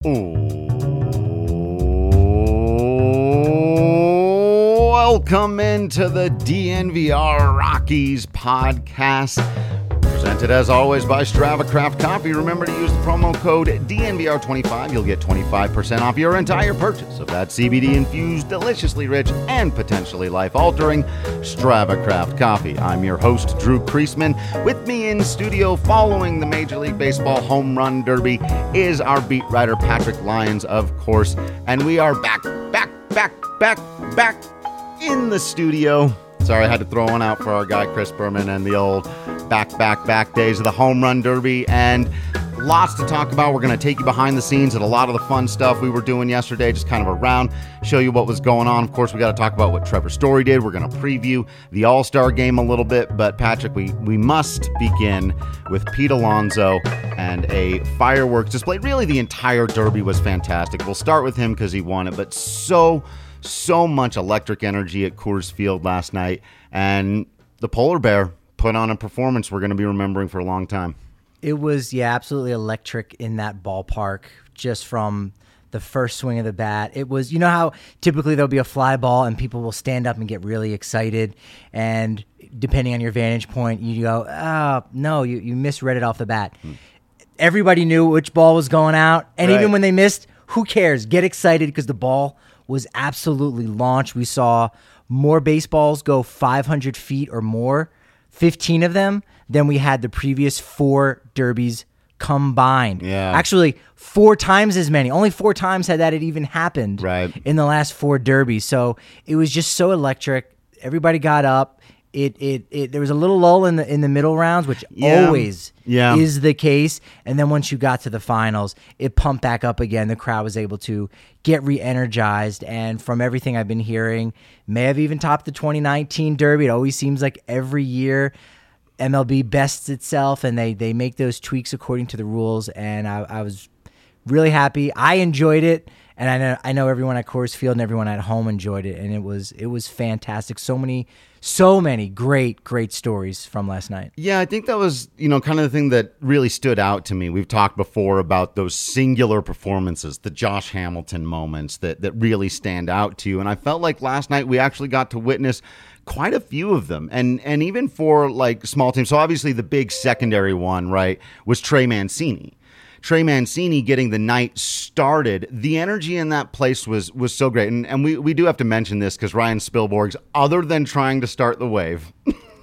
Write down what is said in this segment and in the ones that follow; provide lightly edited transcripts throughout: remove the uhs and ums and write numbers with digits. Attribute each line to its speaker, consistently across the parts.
Speaker 1: Welcome into the DNVR Rockies podcast, presented as always by Strava Craft Coffee. Remember to use the promo code DNVR25. You'll get 25% off your entire purchase of that CBD-infused, deliciously rich, and potentially life-altering Strava Craft Coffee. I'm your host, Drew Creasman. With me in studio following the Major League Baseball Home Run Derby is our beat writer, Patrick Lyons, of course. And we are back in the studio. Sorry, I had to throw one out for our guy Chris Berman and the old back days of the Home Run Derby, and lots to talk about. We're going to take you behind the scenes at a lot of the fun stuff we were doing yesterday, just kind of around, show you what was going on. Of course, we got to talk about what Trevor Story did. We're going to preview the All-Star game a little bit, but Patrick, we must begin with Pete Alonso and a fireworks display. Really, the entire Derby was fantastic. We'll start with him because he won it, but so much electric energy at Coors Field last night, and the Polar Bear put on a performance we're going to be remembering for a long time.
Speaker 2: It was, absolutely electric in that ballpark, just from the first swing of the bat. It was, you know how typically there'll be a fly ball and people will stand up and get really excited, and depending on your vantage point, you go, oh, no, you misread it off the bat. Everybody knew which ball was going out, and
Speaker 1: right.
Speaker 2: Even when they missed, who cares? Get excited because the ball was absolutely launched. We saw more baseballs go 500 feet or more, 15 of them, than we had the previous 4 derbies combined.
Speaker 1: Yeah.
Speaker 2: Actually, 4 times as many. Only 4 times had that even happened in the last 4 derbies. So it was just so electric. Everybody got up. There was a little lull in the middle rounds, which always is the case. And then once you got to the finals, it pumped back up again. The crowd was able to get re-energized. And from everything I've been hearing, may have even topped the 2019 Derby. It always seems like every year MLB bests itself, and they make those tweaks according to the rules. And I was really happy. I enjoyed it. And I know everyone at Coors Field and everyone at home enjoyed it. And it was fantastic. So many great stories from last night.
Speaker 1: Yeah, I think that was, kind of the thing that really stood out to me. We've talked before about those singular performances, the Josh Hamilton moments that really stand out to you. And I felt like last night we actually got to witness quite a few of them. And even for like small teams. So obviously the big secondary one, right, was Trey Mancini. Trey Mancini getting the night started. The energy in that place was so great. And we do have to mention this because Ryan Spielborgs, other than trying to start the wave,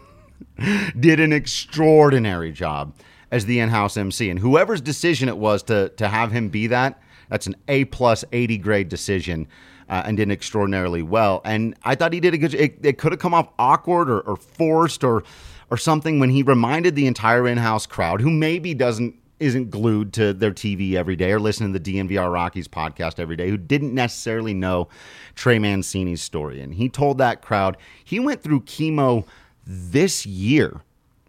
Speaker 1: did an extraordinary job as the in-house MC. And whoever's decision it was to have him be that's an A+ 80 grade decision, and did extraordinarily well. And I thought he did a good job. It could have come off awkward or forced or something when he reminded the entire in-house crowd, who maybe isn't glued to their TV every day or listening to the DNVR Rockies podcast every day, who didn't necessarily know Trey Mancini's story. And he told that crowd he went through chemo this year.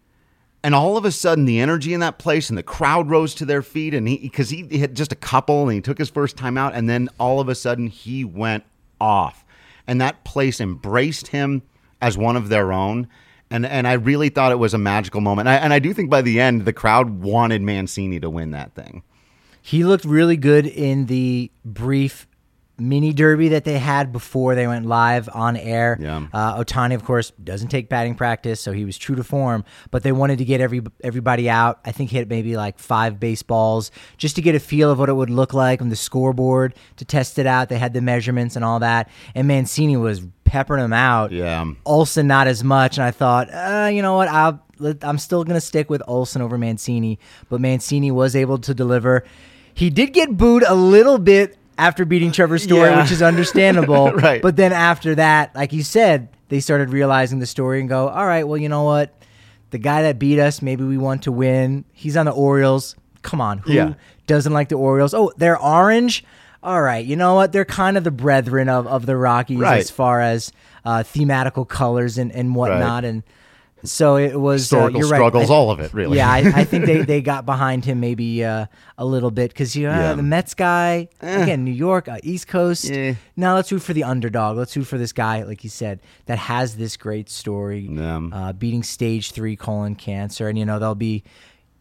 Speaker 1: And all of a sudden, the energy in that place and the crowd rose to their feet, and because he had just a couple and he took his first time out, and then all of a sudden he went off. And that place embraced him as one of their own. And I really thought it was a magical moment. And I do think by the end, the crowd wanted Mancini to win that thing.
Speaker 2: He looked really good in the brief mini derby that they had before they went live on air.
Speaker 1: Yeah.
Speaker 2: Ohtani, of course, doesn't take batting practice, so he was true to form. But they wanted to get everybody out. I think hit maybe like 5 baseballs just to get a feel of what it would look like on the scoreboard, to test it out. They had the measurements and all that. And Mancini was peppering them out.
Speaker 1: Yeah.
Speaker 2: Olsen not as much. And I thought, you know what? I'm still going to stick with Olsen over Mancini. But Mancini was able to deliver. He did get booed a little bit after beating Trevor Story, which is understandable.
Speaker 1: Right.
Speaker 2: But then after that, like you said, they started realizing the story and go, all right, well, you know what? The guy that beat us, maybe we want to win. He's on the Orioles. Come on. Who doesn't like the Orioles? Oh, they're orange? All right. You know what? They're kind of the brethren of the Rockies as far as thematical colors and whatnot. Right. And so it was
Speaker 1: historical struggles, right. All of it, really.
Speaker 2: Yeah, I think they got behind him maybe a little bit because the Mets guy again, New York, East Coast. Now let's root for the underdog. Let's root for this guy, like you said, that has this great story, beating stage 3 colon cancer, and they'll be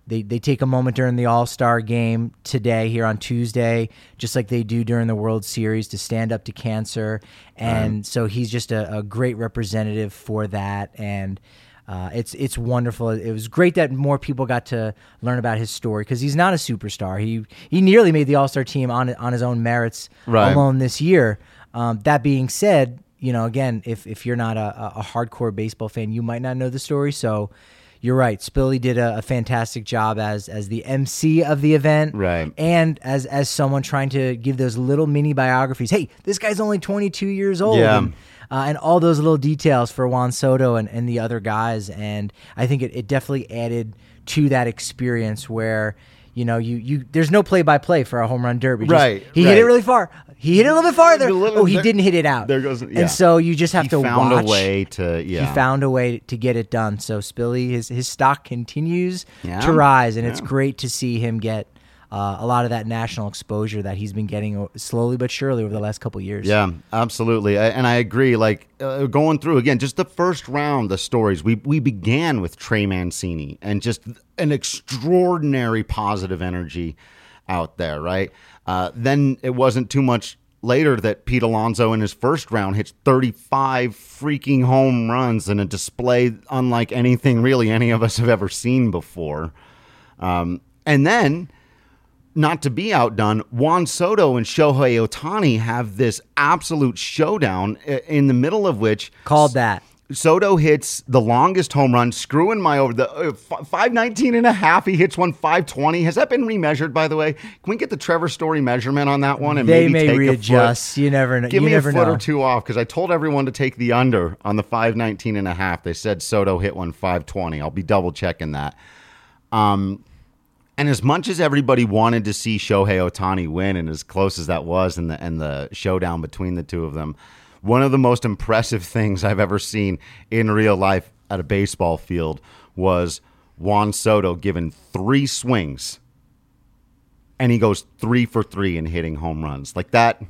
Speaker 2: They take a moment during the All-Star game today here on Tuesday, just like they do during the World Series, to stand up to cancer. And so he's just a great representative for that. And it's wonderful. It was great that more people got to learn about his story, because he's not a superstar. He nearly made the All-Star team on his own merits alone this year. That being said, again, if you're not a hardcore baseball fan, you might not know the story. So you're right. Spilly did a fantastic job as the MC of the event,
Speaker 1: right? And
Speaker 2: as someone trying to give those little mini biographies. Hey, this guy's only 22 years old.
Speaker 1: Yeah.
Speaker 2: And all those little details for Juan Soto and the other guys. And I think it definitely added to that experience where, you there's no play-by-play for a home run derby. He hit it really far. He hit it a little bit farther. He didn't hit it out.
Speaker 1: There goes, yeah.
Speaker 2: And so you just have to watch. He found
Speaker 1: a way
Speaker 2: to get it done. So Spilly, his stock continues to rise, and it's great to see him get a lot of that national exposure that he's been getting slowly but surely over the last couple of years.
Speaker 1: Yeah, absolutely. And I agree. Going through, again, just the first round, the stories, we began with Trey Mancini and just an extraordinary positive energy out there, right? Then it wasn't too much later that Pete Alonso in his first round hits 35 freaking home runs in a display unlike anything really any of us have ever seen before. And then, not to be outdone, Juan Soto and Shohei Ohtani have this absolute showdown, in the middle of which...
Speaker 2: Called that.
Speaker 1: Soto hits the longest home run, screwing my over the 519 and a half. He hits one 520. Has that been remeasured, by the way? Can we get the Trevor Story measurement on that one? And
Speaker 2: they
Speaker 1: maybe
Speaker 2: may
Speaker 1: take
Speaker 2: readjust.
Speaker 1: A foot?
Speaker 2: You never know.
Speaker 1: Give me a foot or two off, because I told everyone to take the under on the 519 and a half. They said Soto hit one 520. I'll be double checking that. And as much as everybody wanted to see Shohei Ohtani win, and as close as that was in the showdown between the two of them, one of the most impressive things I've ever seen in real life at a baseball field was Juan Soto given 3 swings, and he goes 3 for 3 in hitting home runs. Like that,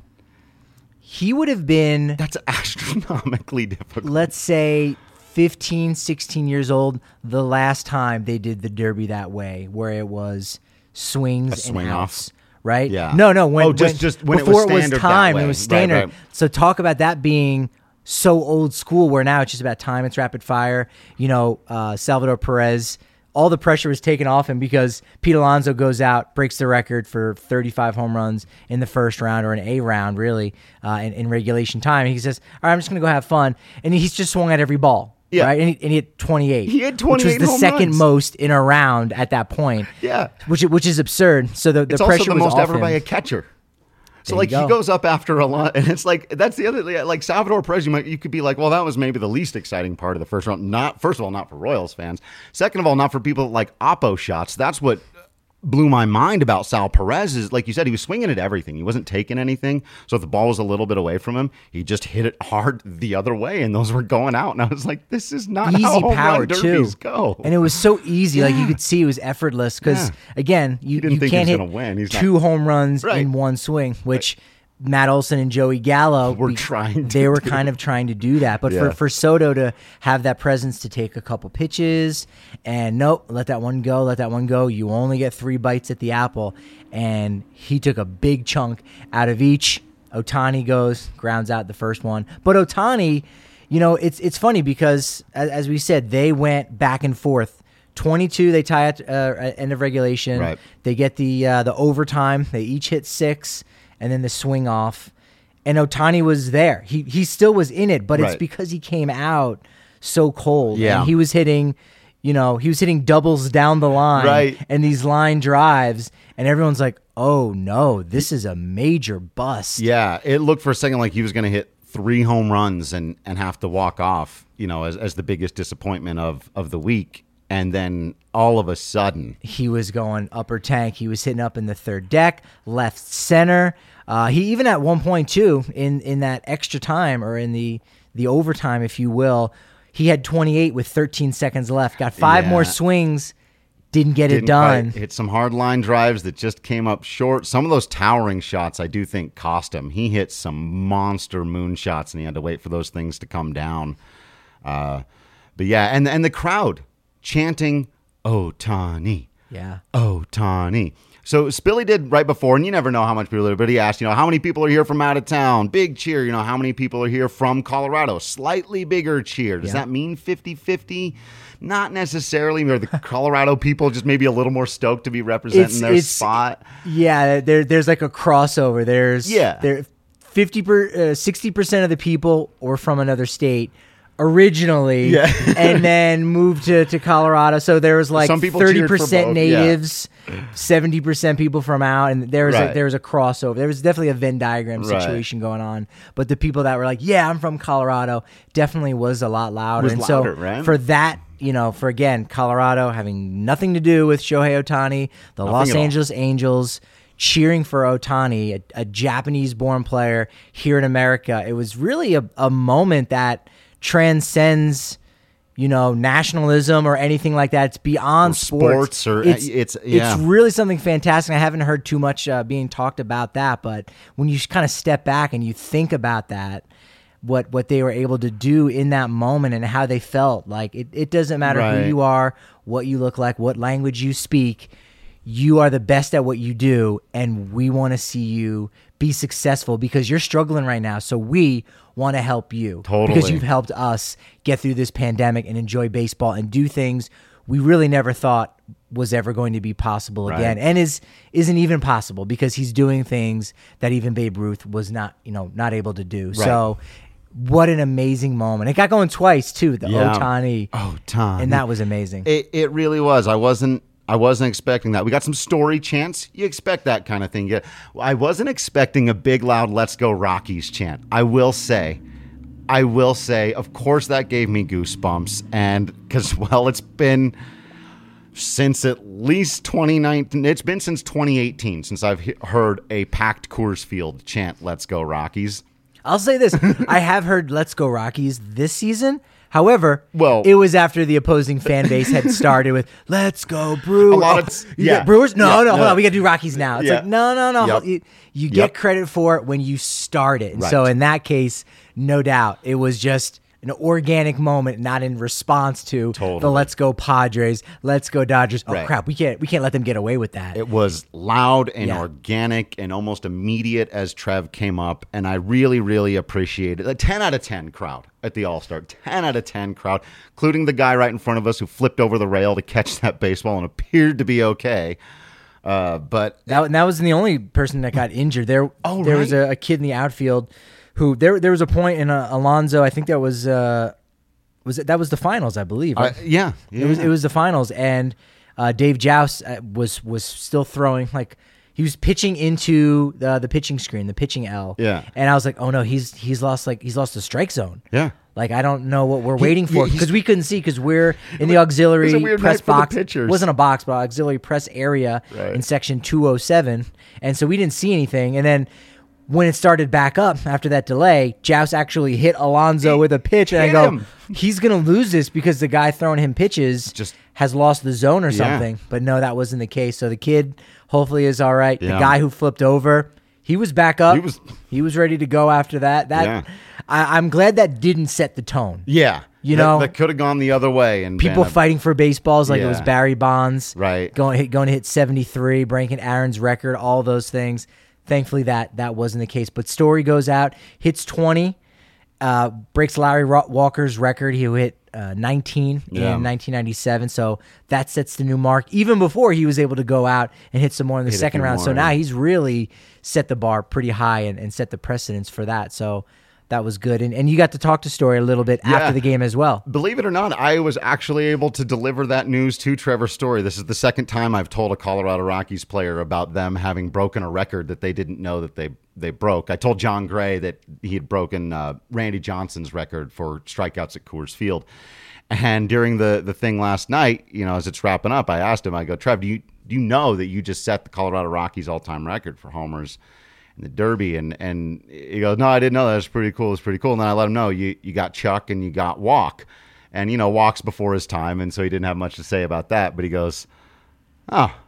Speaker 2: he would have been...
Speaker 1: That's astronomically difficult.
Speaker 2: Let's say 15, 16 years old, the last time they did the Derby that way, where it was swings and outs.
Speaker 1: Off.
Speaker 2: Right?
Speaker 1: Yeah.
Speaker 2: No.
Speaker 1: Just when
Speaker 2: before
Speaker 1: it was
Speaker 2: time,
Speaker 1: that way.
Speaker 2: it was standard.
Speaker 1: Right.
Speaker 2: So talk about that being so old school, where now it's just about time. It's rapid fire. Salvador Perez, all the pressure was taken off him because Pete Alonso goes out, breaks the record for 35 home runs in the first round, or an A round, really, in regulation time. And he says, all right, I'm just going to go have fun. And he's just swung at every ball.
Speaker 1: Yeah.
Speaker 2: Right, and he hit 28.
Speaker 1: He had 28
Speaker 2: which was the second
Speaker 1: runs.
Speaker 2: most in a round at that point.
Speaker 1: Yeah,
Speaker 2: which is absurd. So the
Speaker 1: it's
Speaker 2: pressure
Speaker 1: also the
Speaker 2: was
Speaker 1: most
Speaker 2: off
Speaker 1: ever
Speaker 2: him.
Speaker 1: by a catcher. So
Speaker 2: There
Speaker 1: he goes up after a lot, and it's like that's the other, like Salvador Perez. You could be like, well, that was maybe the least exciting part of the first round. First of all, not for Royals fans. Second of all, not for people that like oppo shots. That's what blew my mind about Sal Perez is, like you said, he was swinging at everything. He wasn't taking anything. So if the ball was a little bit away from him, he just hit it hard the other way, and those were going out. And I was like, this is not
Speaker 2: easy
Speaker 1: how home
Speaker 2: power
Speaker 1: run derbies go.
Speaker 2: And it was so easy. Like you could see it was effortless because, again, you can't hit
Speaker 1: win.
Speaker 2: 2 home runs in one swing, which Matt Olson and Joey Gallo
Speaker 1: were kind of
Speaker 2: trying to do that. But for Soto to have that presence to take a couple pitches and nope, let that one go. You only get 3 bites at the apple. And he took a big chunk out of each. Ohtani grounds out the first one. But Ohtani, it's funny because, as we said, they went back and forth. 22, they tie at end of regulation.
Speaker 1: Right.
Speaker 2: They get the overtime. They each hit 6. And then the swing off, and Ohtani was there. He still was in it, but it's because he came out so cold.
Speaker 1: Yeah,
Speaker 2: and he was hitting doubles down the line, and these line drives, and everyone's like, "Oh no, this is a major bust."
Speaker 1: Yeah, it looked for a second like he was going to hit 3 home runs and have to walk off, as the biggest disappointment of the week. And then all of a sudden,
Speaker 2: he was going upper tank. He was hitting up in the third deck, left center. He even at one point too, in that extra time or in the overtime, if you will, he had 28 with 13 seconds left. Got 5 more swings, didn't get it done.
Speaker 1: Hit some hard line drives that just came up short. Some of those towering shots I do think cost him. He hit some monster moon shots, and he had to wait for those things to come down. But yeah, and the crowd chanting Ohtani,
Speaker 2: Yeah.
Speaker 1: Ohtani. So Spilly did right before, and you never know how much people are, but he asked, how many people are here from out of town? Big cheer. How many people are here from Colorado? Slightly bigger cheer. Does that mean 50-50? Not necessarily. Or the Colorado people just maybe a little more stoked to be representing their spot.
Speaker 2: Yeah, there's like a crossover. There's 60% of the people were from another state originally, and then moved to Colorado. So there was like 30% natives, 70% people from out, and there was a crossover. There was definitely a Venn diagram situation going on. But the people that were like, "Yeah, I'm from Colorado," definitely was a lot louder. For that, for again, Colorado having nothing to do with Shohei Ohtani, the Los Angeles Angels cheering for Ohtani, a Japanese-born player here in America. It was really a moment that transcends, nationalism or anything like that. It's beyond sports. It's really something fantastic. I haven't heard too much being talked about that, but when you kind of step back and you think about that, what they were able to do in that moment and how they felt, like it doesn't matter who you are, what you look like, what language you speak. You are the best at what you do, and we want to see you be successful because you're struggling right now. So we want to help you because you've helped us get through this pandemic and enjoy baseball and do things we really never thought was ever going to be possible again, and isn't even possible because he's doing things that even Babe Ruth was not able to do. So what an amazing moment. It got going twice too, Ohtani, and that was amazing.
Speaker 1: It really was. I wasn't expecting that. We got some story chants. You expect that kind of thing. I wasn't expecting a big, loud, "Let's go Rockies" chant. I will say, of course, that gave me goosebumps. And because, it's been since at least 2019. It's been since 2018 since I've heard a packed Coors Field chant, "Let's go Rockies."
Speaker 2: I'll say this. I have heard "Let's go Rockies" this season. However, it was after the opposing fan base had started with "Let's go Brewers." Brewers? No, hold on. We got to do Rockies now. It's like, no.
Speaker 1: Yep.
Speaker 2: You get credit for it when you start it. And so in that case, no doubt, it was just an organic moment, not in response to the "Let's go Padres," "Let's go Dodgers." Oh crap, we can't let them get away with that.
Speaker 1: It was loud and organic and almost immediate as Trev came up, and I really, really appreciated it. A 10 out of 10 crowd at the All-Star. 10 out of 10 crowd, including the guy right in front of us who flipped over the rail to catch that baseball and appeared to be okay. But
Speaker 2: that wasn't the only person that got injured. There was a kid in the outfield who there was a point in Alonso. I think that was the finals, I believe. Right? It was the finals, and Dave Joust was still throwing, like he was pitching into the pitching screen, the pitching L.
Speaker 1: Yeah,
Speaker 2: and I was like, oh no, he's lost the strike zone.
Speaker 1: Yeah.
Speaker 2: Like, I don't know what we're waiting for because we couldn't see because we're in the auxiliary press box. It wasn't a box, but auxiliary press area in section 207. And so we didn't see anything. And then when it started back up after that delay, Joust actually hit Alonso with a pitch. And I go, he's going to lose this because the guy throwing him pitches just has lost the zone or something. But no, that wasn't the case. So the kid hopefully is all right. Yeah. The guy who flipped over, he was back up. He was ready to go after that. I'm glad that didn't set the tone.
Speaker 1: Yeah. That could have gone the other way. And
Speaker 2: people fighting for baseballs like it was Barry Bonds.
Speaker 1: Right.
Speaker 2: Going to hit 73, breaking Aaron's record, all those things. Thankfully, that wasn't the case. But Story goes out, hits 20, breaks Larry Walker's record. He hit 19 in 1997. So that sets the new mark, even before he was able to go out and hit some more in the second round. So now he's really set the bar pretty high and set the precedence for that. So that was good. And you got to talk to Story a little bit after the game as well.
Speaker 1: Believe it or not, I was actually able to deliver that news to Trevor Story. This is the second time I've told a Colorado Rockies player about them having broken a record that they didn't know that they broke. I told John Gray that he had broken Randy Johnson's record for strikeouts at Coors Field. And during the thing last night, as it's wrapping up, I asked him, I go, Trev, do you know that you just set the Colorado Rockies all-time record for homers in the Derby? And he goes, no, I didn't know that. It's pretty cool. It's pretty cool. And then I let him know you got Chuck and you got Walk. And, Walk's before his time, and so he didn't have much to say about that. But he goes, oh,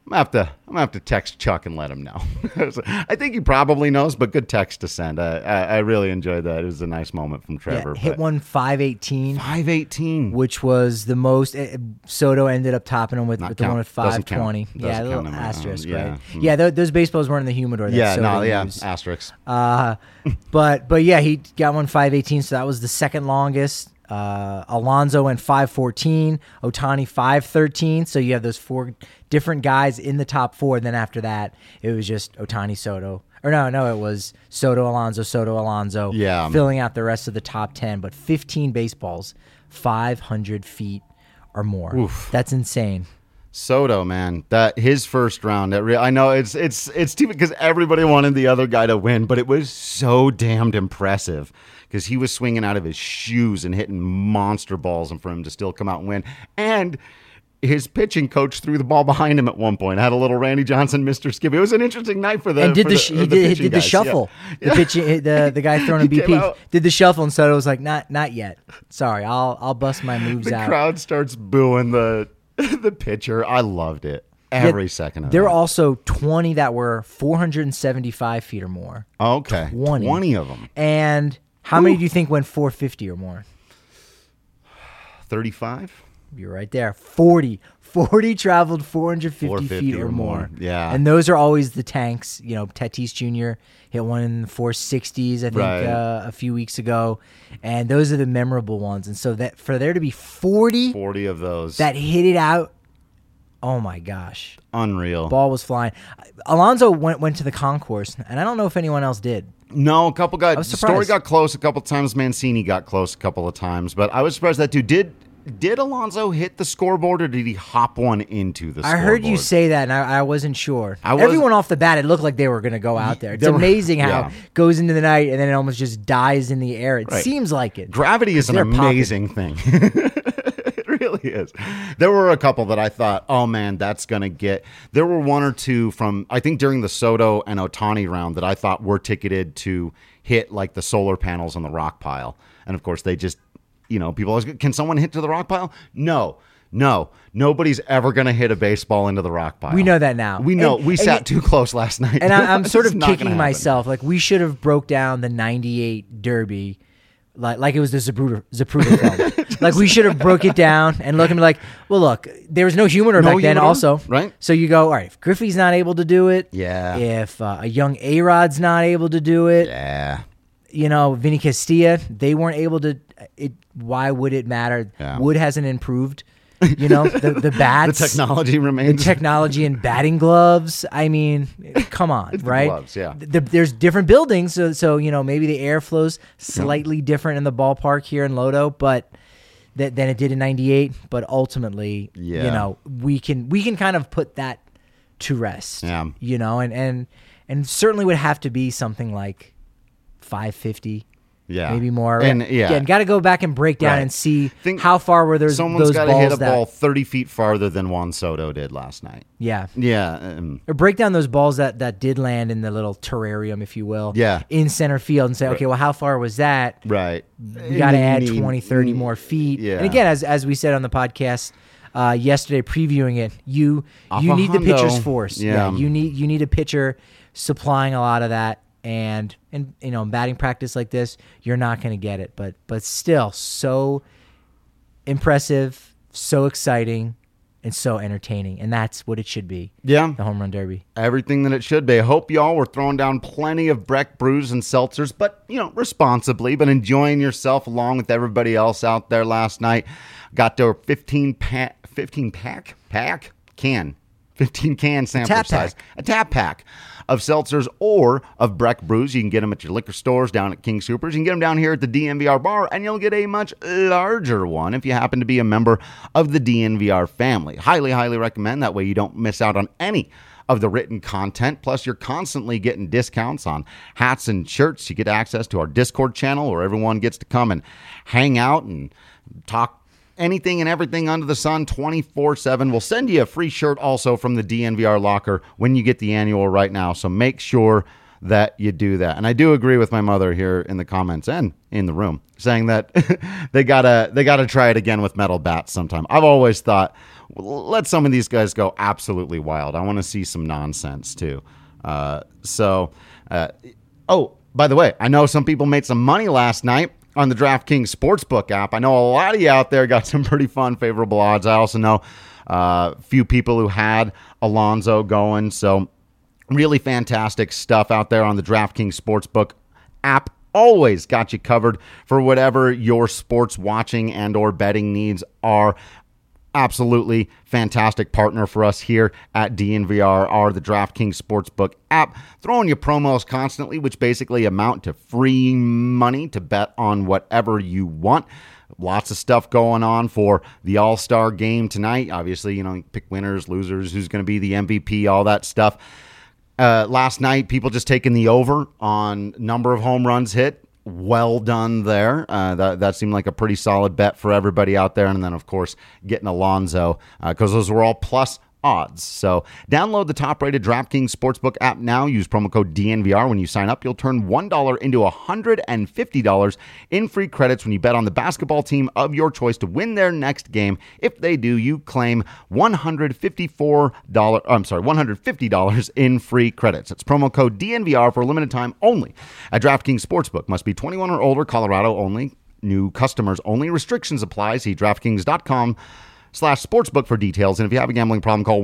Speaker 1: I'm gonna have to text Chuck and let him know. I think he probably knows, but good text to send. I really enjoyed that. It was a nice moment from Trevor.
Speaker 2: Yeah, hit one 518.
Speaker 1: 518,
Speaker 2: which was the most. Soto ended up topping him with the one with 520. Yeah, a little asterisk, right? Yeah, those baseballs weren't in the humidor.
Speaker 1: Asterisks.
Speaker 2: But yeah, he got one 518, so that was the second longest. Alonso went 514, Ohtani 513. So you have those 4 different guys in the top 4. And then after that, it was just Ohtani, Soto. Or no, it was Soto, Alonso.
Speaker 1: Yeah.
Speaker 2: Filling out the rest of the top 10. But 15 baseballs, 500 feet or more.
Speaker 1: Oof.
Speaker 2: That's insane.
Speaker 1: Soto, man, that his first round. I know it's too because everybody wanted the other guy to win, but it was so damned impressive because he was swinging out of his shoes and hitting monster balls, and for him to still come out and win. And his pitching coach threw the ball behind him at one point. Had a little Randy Johnson, Mr. Skip. It was an interesting night for them.
Speaker 2: And he did the shuffle. Yeah. The guy throwing a BP did the shuffle, and Soto was like, not yet. Sorry, I'll bust my moves out.
Speaker 1: The crowd starts booing the pitcher. I loved it. Every second of it.
Speaker 2: There were also 20 that were 475 feet or more.
Speaker 1: Okay. 20 of them.
Speaker 2: And how many do you think went 450 or more?
Speaker 1: 35?
Speaker 2: You're right there. 40 traveled 450 feet or more.
Speaker 1: Yeah.
Speaker 2: And those are always the tanks. You know, Tatis Jr. hit one in the 460s, I think, a few weeks ago. And those are the memorable ones. And so that for there to be 40
Speaker 1: of those
Speaker 2: that hit it out, oh my gosh.
Speaker 1: Unreal.
Speaker 2: Ball was flying. Alonso went to the concourse, and I don't know if anyone else did.
Speaker 1: No, a couple guys. Story got close a couple times. Mancini got close a couple of times. But I was surprised that dude did Alonso hit the scoreboard, or did he hop one into the scoreboard?
Speaker 2: I heard you say that, and I wasn't sure. Everyone off the bat, it looked like they were going to go out there. It's amazing how it goes into the night, and then it almost just dies in the air. It seems like it.
Speaker 1: Gravity is an amazing thing. It really is. There were a couple that I thought, oh, man, that's going to get... There were one or two from, I think, during the Soto and Ohtani round that I thought were ticketed to hit, like, the solar panels on the rock pile. And, of course, they just... You know, people always go, can someone hit to the rock pile? No. Nobody's ever going to hit a baseball into the rock pile.
Speaker 2: We know that now.
Speaker 1: We know. We sat too close last night.
Speaker 2: And I'm sort of kicking myself. Like, we should have broke down the 98 Derby like it was the Zapruder film. Like, we should have broke it down and look and be like, well, look, there was no humidor back then also.
Speaker 1: Right.
Speaker 2: So you go, all right, if Griffey's not able to do it.
Speaker 1: Yeah.
Speaker 2: If a young A-Rod's not able to do it.
Speaker 1: Yeah.
Speaker 2: You know, Vinny Castilla, they weren't able to. Why would it matter?
Speaker 1: Yeah.
Speaker 2: Wood hasn't improved. You know, the bats.
Speaker 1: The technology remains.
Speaker 2: The technology in batting gloves. I mean, come on, right?
Speaker 1: Gloves, yeah.
Speaker 2: There's different buildings, so you know, maybe the air flows slightly different in the ballpark here in Lodo, but than it did in '98. But ultimately, you know, we can kind of put that to rest.
Speaker 1: Yeah.
Speaker 2: You know, and certainly would have to be something like 550, maybe more.
Speaker 1: And
Speaker 2: got to go back and break down and see how far were those balls.
Speaker 1: Someone's got to hit a ball 30 feet farther than Juan Soto did last night.
Speaker 2: Yeah.
Speaker 1: Or
Speaker 2: break down those balls that did land in the little terrarium, if you will, in center field and say, okay, well, how far was that?
Speaker 1: Right.
Speaker 2: We got to add 20, 30 more feet.
Speaker 1: Yeah.
Speaker 2: And again, as we said on the podcast yesterday, previewing it, you need the pitcher's force.
Speaker 1: Yeah.
Speaker 2: You need a pitcher supplying a lot of that. And you know, in batting practice like this, you're not going to get it. But still, so impressive, so exciting, and so entertaining. And that's what it should be.
Speaker 1: Yeah.
Speaker 2: The Home Run Derby.
Speaker 1: Everything that it should be. I hope y'all were throwing down plenty of Breck brews and seltzers, but, you know, responsibly, but enjoying yourself along with everybody else out there last night. Got their 15 can sampler size. A tap pack of seltzers or of Breck brews. You can get them at your liquor stores down at King Soopers. You can get them down here at the DNVR bar, and you'll get a much larger one if you happen to be a member of the DNVR family. Highly, highly recommend. That way you don't miss out on any of the written content. Plus, you're constantly getting discounts on hats and shirts. You get access to our Discord channel where everyone gets to come and hang out and talk anything and everything under the sun 24/7. We'll send you a free shirt also from the DNVR locker when you get the annual right now. So make sure that you do that. And I do agree with my mother here in the comments and in the room saying that they gotta try it again with metal bats sometime. I've always thought, let some of these guys go absolutely wild. I want to see some nonsense too. Oh, by the way, I know some people made some money last night on the DraftKings Sportsbook app. I know a lot of you out there got some pretty fun, favorable odds. I also know a few people who had Alonso going. So really fantastic stuff out there on the DraftKings Sportsbook app. Always got you covered for whatever your sports watching and or betting needs are. Absolutely fantastic partner for us here at DNVR are the DraftKings Sportsbook app, throwing you promos constantly, which basically amount to free money to bet on whatever you want. Lots of stuff going on for the All-Star game tonight. Obviously, pick winners, losers, who's going to be the MVP, all that stuff. Last night, people just taking the over on number of home runs hit. Well done there. That seemed like a pretty solid bet for everybody out there. And then, of course, getting Alonso because those were all plus odds. So download the top-rated DraftKings Sportsbook app now. Use promo code DNVR when you sign up. You'll turn $1 into $150 in free credits when you bet on the basketball team of your choice to win their next game. If they do, you claim $150 in free credits. It's promo code DNVR for a limited time only at DraftKings Sportsbook. Must be 21 or older, Colorado only. New customers only. Restrictions apply. See DraftKings.com/sportsbook for details. And if you have a gambling problem, call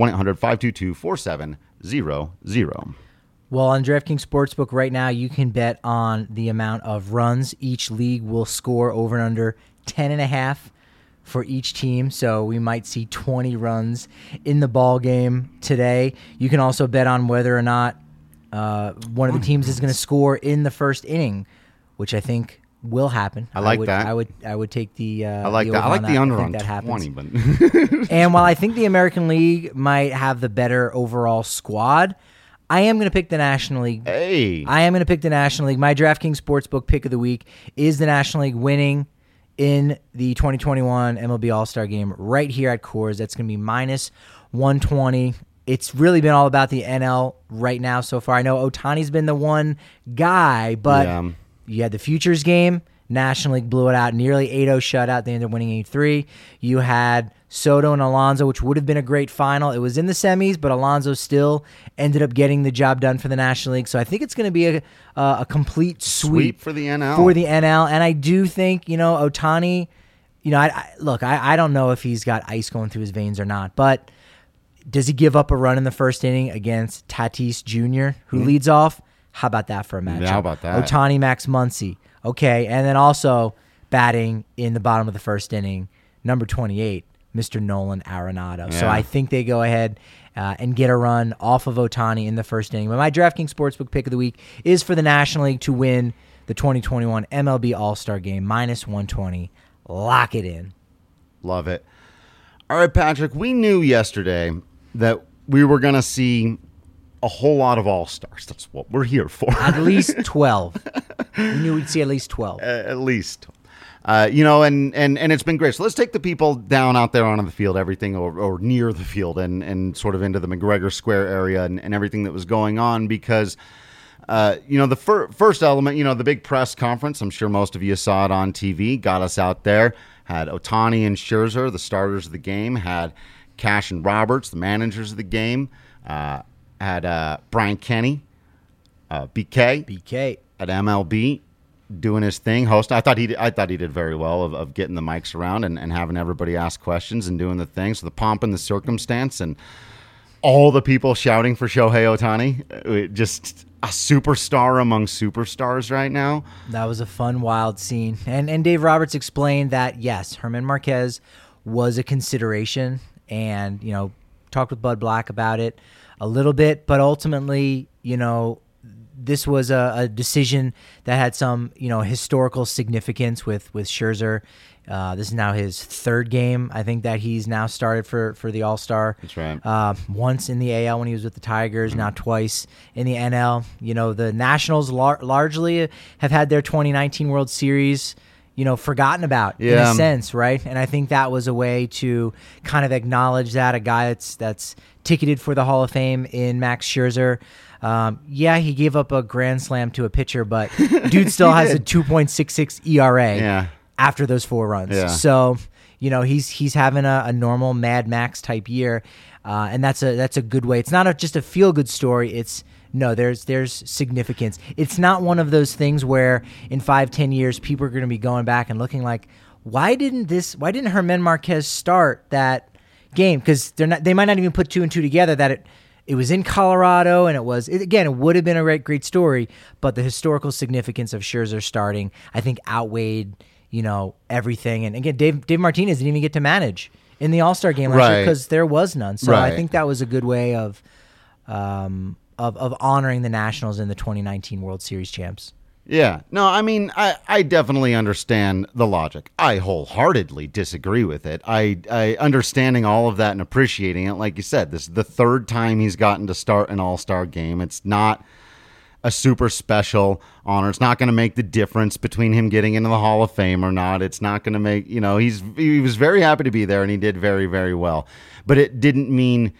Speaker 1: 1-800-522-4700.
Speaker 2: Well, on DraftKings Sportsbook right now, you can bet on the amount of runs each league will score over and under 10.5 for each team. So we might see 20 runs in the ball game today. You can also bet on whether or not one of the teams is going to score in the first inning, which I think will happen.
Speaker 1: I like that.
Speaker 2: I would take the.
Speaker 1: I like that. I like the under on 20. But
Speaker 2: and while I think the American League might have the better overall squad, I am going to pick the National League.
Speaker 1: Hey,
Speaker 2: I am going to pick the National League. My DraftKings Sportsbook pick of the week is the National League winning in the 2021 MLB All-Star Game right here at Coors. That's going to be minus 120. It's really been all about the NL right now so far. I know Ohtani's been the one guy, but. Yeah. You had the Futures game. National League blew it out, nearly 8-0 shutout. They ended up winning 8-3. You had Soto and Alonso, which would have been a great final. It was in the semis, but Alonso still ended up getting the job done for the National League. So I think it's going to be a complete sweep
Speaker 1: for the NL.
Speaker 2: And I do think, Ohtani, I don't know if he's got ice going through his veins or not, but does he give up a run in the first inning against Tatis Jr., who leads off? How about that for a matchup?
Speaker 1: Yeah, how about that?
Speaker 2: Ohtani, Max Muncy. Okay, and then also batting in the bottom of the first inning, number 28, Mr. Nolan Arenado. Yeah. So I think they go ahead and get a run off of Ohtani in the first inning. But my DraftKings Sportsbook pick of the week is for the National League to win the 2021 MLB All-Star Game, minus 120. Lock it in.
Speaker 1: Love it. All right, Patrick, we knew yesterday that we were going to see a whole lot of all-stars. That's what we're here for.
Speaker 2: At least 12. We knew we'd see at least 12.
Speaker 1: At least. And it's been great. So let's take the people down out there on the field, everything or near the field and sort of into the McGregor Square area and everything that was going on because, the first element, the big press conference, I'm sure most of you saw it on TV, got us out there, had Ohtani and Scherzer, the starters of the game, had Cash and Roberts, the managers of the game, had Brian Kenny, BK at MLB doing his thing, host. I thought he did very well of getting the mics around and having everybody ask questions and doing the thing. So the pomp and the circumstance and all the people shouting for Shohei Ohtani, just a superstar among superstars right now.
Speaker 2: That was a fun, wild scene. And Dave Roberts explained that, yes, Herman Marquez was a consideration and, talked with Bud Black about it a little bit, but ultimately, this was a decision that had some, historical significance with Scherzer. This is now his third game, I think, that he's now started for the All-Star.
Speaker 1: That's right.
Speaker 2: Once in the AL when he was with the Tigers, now twice in the NL. The Nationals largely have had their 2019 World Series, forgotten about in a sense, right? And I think that was a way to kind of acknowledge that a guy that's ticketed for the Hall of Fame in Max Scherzer. He gave up a grand slam to a pitcher, but dude still has a 2.66 ERA after those 4 runs. Yeah. So, he's having a normal Mad Max type year, and that's a good way. It's not just a feel good story. There's significance. It's not one of those things where in 5-10 years people are going to be going back and looking like, why didn't Germán Marquez start that game? Because they might not even put 2 and 2 together that it was in Colorado, and it would have been a great story, but the historical significance of Scherzer starting, I think, outweighed, everything. And again, Dave Martinez didn't even get to manage in the All-Star game last year because there was none. So I think that was a good way of honoring the Nationals and the 2019 World Series champs.
Speaker 1: Yeah. No, I mean, I definitely understand the logic. I wholeheartedly disagree with it. I understanding all of that and appreciating it. Like you said, this is the 3rd time he's gotten to start an All-Star game. It's not a super special honor. It's not going to make the difference between him getting into the Hall of Fame or not. It's not going to make, he was very happy to be there, and he did very, very well. But it doesn't mean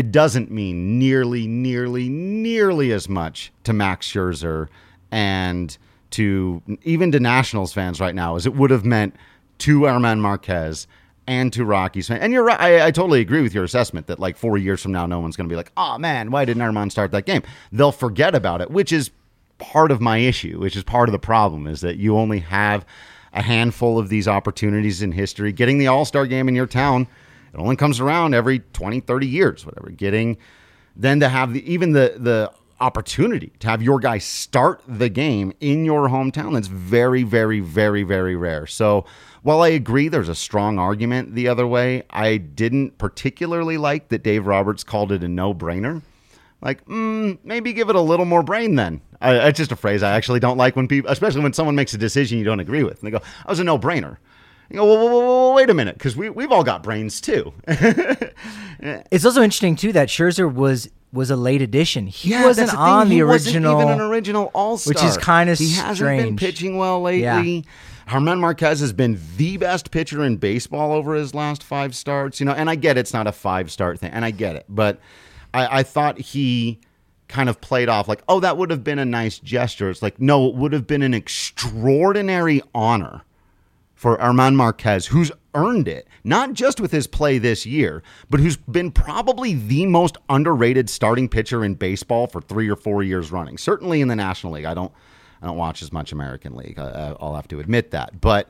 Speaker 1: nearly as much to Max Scherzer and to Nationals fans right now as it would have meant to Germán Marquez and to Rockies fans. And you're right. I totally agree with your assessment that like 4 years from now, no one's going to be like, oh man, why didn't Germán start that game? They'll forget about it, which is part of my issue, which is part of the problem, is that you only have a handful of these opportunities in history. Getting the All-Star game in your town, it only comes around every 20, 30 years, whatever. Then to have the opportunity to have your guy start the game in your hometown, that's very, very, very, very rare. So while I agree there's a strong argument the other way, I didn't particularly like that Dave Roberts called it a no-brainer. Like, maybe give it a little more brain then. It's just a phrase I actually don't like when people, especially when someone makes a decision you don't agree with. And they go, "I was a no-brainer." You go, well, wait a minute, because we've all got brains too.
Speaker 2: It's also interesting too that Scherzer was a late addition. He wasn't on the original.
Speaker 1: Wasn't even an original All-Star,
Speaker 2: which is kind of strange.
Speaker 1: He hasn't been pitching well lately. Yeah. Germán Marquez has been the best pitcher in baseball over his last 5 starts. And I get it's not a 5-start thing, and I get it, but I thought he kind of played off like, oh, that would have been a nice gesture. It's like, no, it would have been an extraordinary honor for Germán Marquez, who's earned it, not just with his play this year, but who's been probably the most underrated starting pitcher in baseball for 3 or 4 years running. Certainly in the National League. I don't watch as much American League. I'll have to admit that. But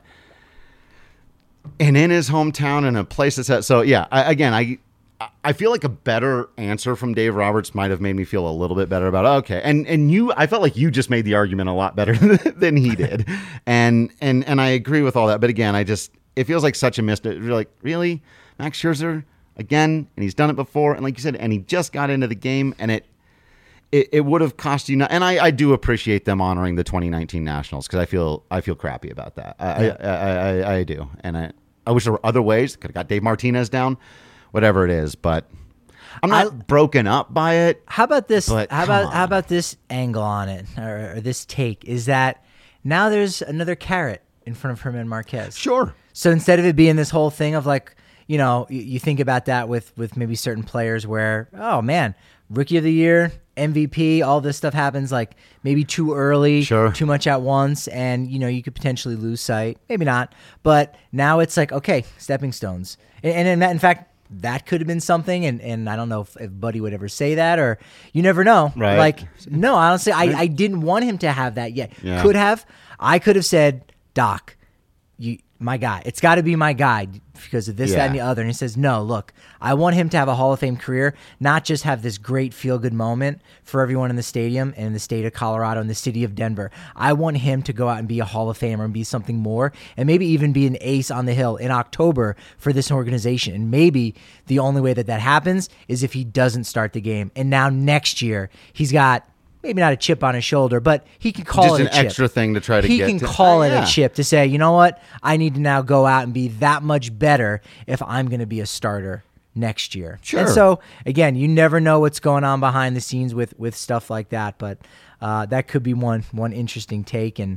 Speaker 1: in his hometown, in a place that's that. So yeah, I feel like a better answer from Dave Roberts might have made me feel a little bit better about it. Okay. And I felt like you just made the argument a lot better than he did. and I agree with all that. But again, it feels like such a missed. You're like, really? Max Scherzer again? And he's done it before. And like you said, and he just got into the game, and it would have cost you. And I do appreciate them honoring the 2019 Nationals, because I feel crappy about that. I do. And I wish there were other ways. Could have got Dave Martinez down. Whatever it is, but I'm not broken up by it.
Speaker 2: How about this? How about this angle on it, or this take? Is that now there's another carrot in front of Germán Marquez?
Speaker 1: Sure.
Speaker 2: So instead of it being this whole thing of like, you think about that with maybe certain players where, oh man, Rookie of the Year, MVP, all this stuff happens like maybe too early,
Speaker 1: sure,
Speaker 2: too much at once, and you could potentially lose sight. Maybe not, but now it's like, okay, stepping stones, and in fact. That could have been something, and I don't know if Buddy would ever say that, or you never know.
Speaker 1: Right.
Speaker 2: Like, no, honestly, I didn't want him to have that yet. Yeah. I could have said, Doc, my guy. It's got to be my guy because of this, that, and the other. And he says, no, look, I want him to have a Hall of Fame career, not just have this great feel-good moment for everyone in the stadium and in the state of Colorado and the city of Denver. I want him to go out and be a Hall of Famer and be something more, and maybe even be an ace on the hill in October for this organization. And maybe the only way that happens is if he doesn't start the game. And now next year, he's got maybe not a chip on his shoulder, but he can call
Speaker 1: just
Speaker 2: it a chip.
Speaker 1: Just an extra thing to try to
Speaker 2: get
Speaker 1: to.
Speaker 2: He can call it a chip to say, you know what? I need to now go out and be that much better if I'm going to be a starter next year.
Speaker 1: Sure.
Speaker 2: And so, again, you never know what's going on behind the scenes with stuff like that, but that could be one interesting take. And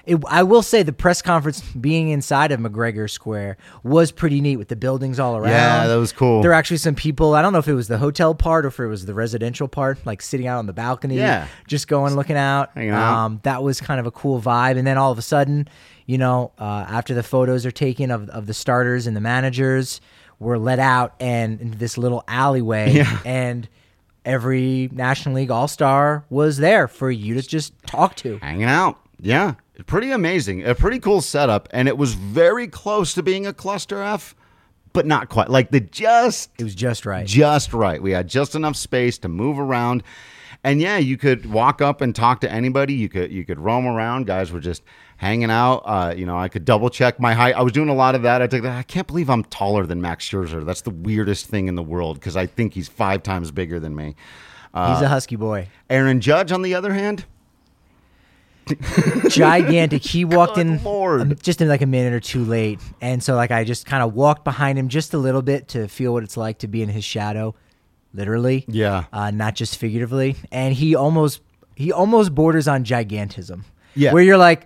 Speaker 2: I will say the press conference being inside of McGregor Square was pretty neat with the buildings all around.
Speaker 1: Yeah, that was cool.
Speaker 2: There were actually some people, I don't know if it was the hotel part or if it was the residential part, like sitting out on the balcony, just going, looking out.
Speaker 1: Hanging out.
Speaker 2: That was kind of a cool vibe. And then all of a sudden, after the photos are taken of the starters and the managers, we're let out and into this little alleyway. And every National League All-Star was there for you to just talk to.
Speaker 1: Hanging out. Yeah. Pretty amazing. A pretty cool setup. And it was very close to being a cluster F, but not quite. Like it was
Speaker 2: just right.
Speaker 1: Just right. We had just enough space to move around. And yeah, you could walk up and talk to anybody. You could roam around. Guys were just hanging out. I could double check my height. I was doing a lot of that. I can't believe I'm taller than Max Scherzer. That's the weirdest thing in the world because I think he's 5 times bigger than me.
Speaker 2: He's a husky boy.
Speaker 1: Aaron Judge, on the other hand,
Speaker 2: gigantic. He walked in
Speaker 1: Lord.
Speaker 2: Just in like a minute or two late, and so like I just kind of walked behind him just a little bit to feel what it's like to be in his shadow, literally.
Speaker 1: Yeah.
Speaker 2: Not just figuratively. And he almost borders on gigantism.
Speaker 1: Yeah.
Speaker 2: Where you're like,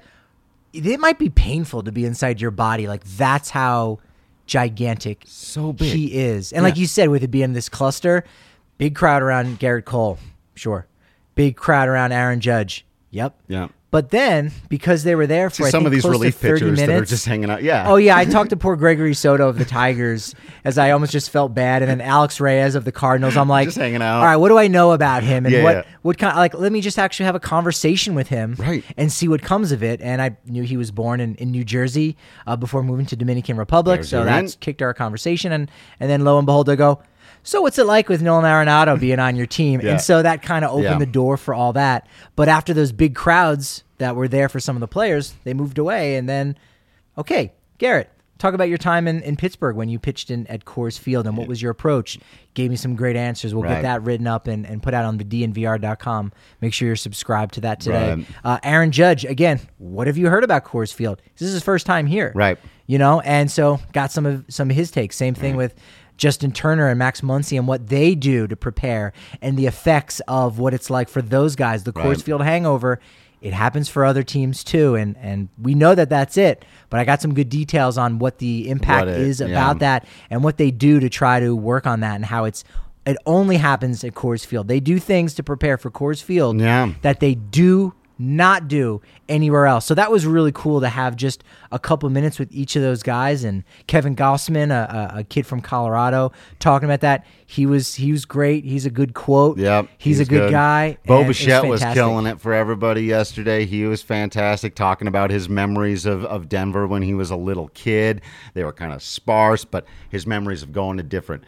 Speaker 2: it might be painful to be inside your body. Like that's how gigantic
Speaker 1: so big
Speaker 2: he is. And like you said, with it being this cluster, big crowd around Garrett Cole. Sure. Big crowd around Aaron Judge. Yep.
Speaker 1: Yeah.
Speaker 2: But then, because they were there for
Speaker 1: some of these relief pitchers that are just hanging out. Yeah.
Speaker 2: Oh, yeah. I talked to poor Gregory Soto of the Tigers as I almost just felt bad. And then Alex Reyes of the Cardinals. I'm like,
Speaker 1: just hanging out.
Speaker 2: All right, what do I know about him? And what kind of, like, let me just actually have a conversation with him and see what comes of it. And I knew he was born in New Jersey before moving to Dominican Republic. So that's kicked our conversation. And then lo and behold, I go, so what's it like with Nolan Arenado being on your team? And so that kind of opened the door for all that. But after those big crowds that were there for some of the players, they moved away. And then, okay, Garrett, talk about your time in Pittsburgh when you pitched at Coors Field and what was your approach? Gave me some great answers. We'll get that written up and put out on the DNVR.com. Make sure you're subscribed to that today. Aaron Judge, again, what have you heard about Coors Field? This is his first time here.
Speaker 1: Right.
Speaker 2: And so got some of his takes. Same thing with Justin Turner and Max Muncy and what they do to prepare and the effects of what it's like for those guys. The Coors Field hangover, it happens for other teams too, and we know that that's it. But I got some good details on what the impact is about that and what they do to try to work on that and how it only happens at Coors Field. They do things to prepare for Coors Field that they do not do anywhere else. So that was really cool to have just a couple minutes with each of those guys. And Kevin Gossman, a kid from Colorado, talking about that. He was great. He's a good quote.
Speaker 1: Yep,
Speaker 2: he's a good guy.
Speaker 1: Bo Bichette was killing it for everybody yesterday. He was fantastic, talking about his memories of Denver when he was a little kid. They were kind of sparse, but his memories of going to different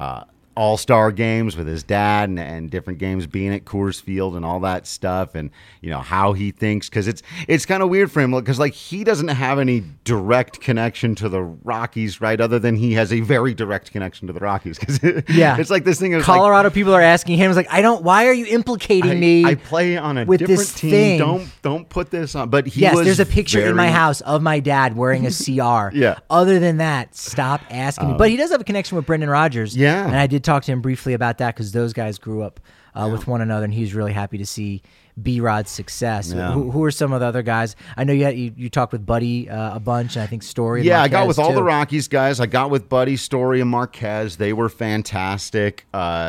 Speaker 1: all-star games with his dad and different games being at Coors Field and all that stuff, and how he thinks, because it's kind of weird for him because like he doesn't have any direct connection to the Rockies, right? Other than he has a very direct connection to the Rockies, because it's like this thing of
Speaker 2: Colorado people are asking him, like, why are you implicating me?
Speaker 1: I play on a
Speaker 2: with
Speaker 1: different
Speaker 2: this
Speaker 1: team.
Speaker 2: Thing.
Speaker 1: Don't put this on. But
Speaker 2: there's a picture in my house of my dad wearing a CR. Other than that, stop asking me. But he does have a connection with Brendan Rodgers.
Speaker 1: Yeah,
Speaker 2: and I did talk to him briefly about that because those guys grew up with one another, and he was really happy to see B-Rod's success. Who are some of the other guys? I know you talked with Buddy a bunch, and I think Story.
Speaker 1: Yeah, I got with all the Rockies guys. I got with Buddy, Story, and Marquez. They were fantastic.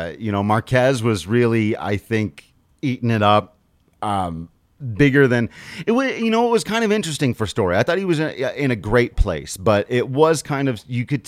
Speaker 1: Marquez was really, I think, eating it up. Bigger than it was. It was kind of interesting for Story. I thought he was in a great place, but it was kind of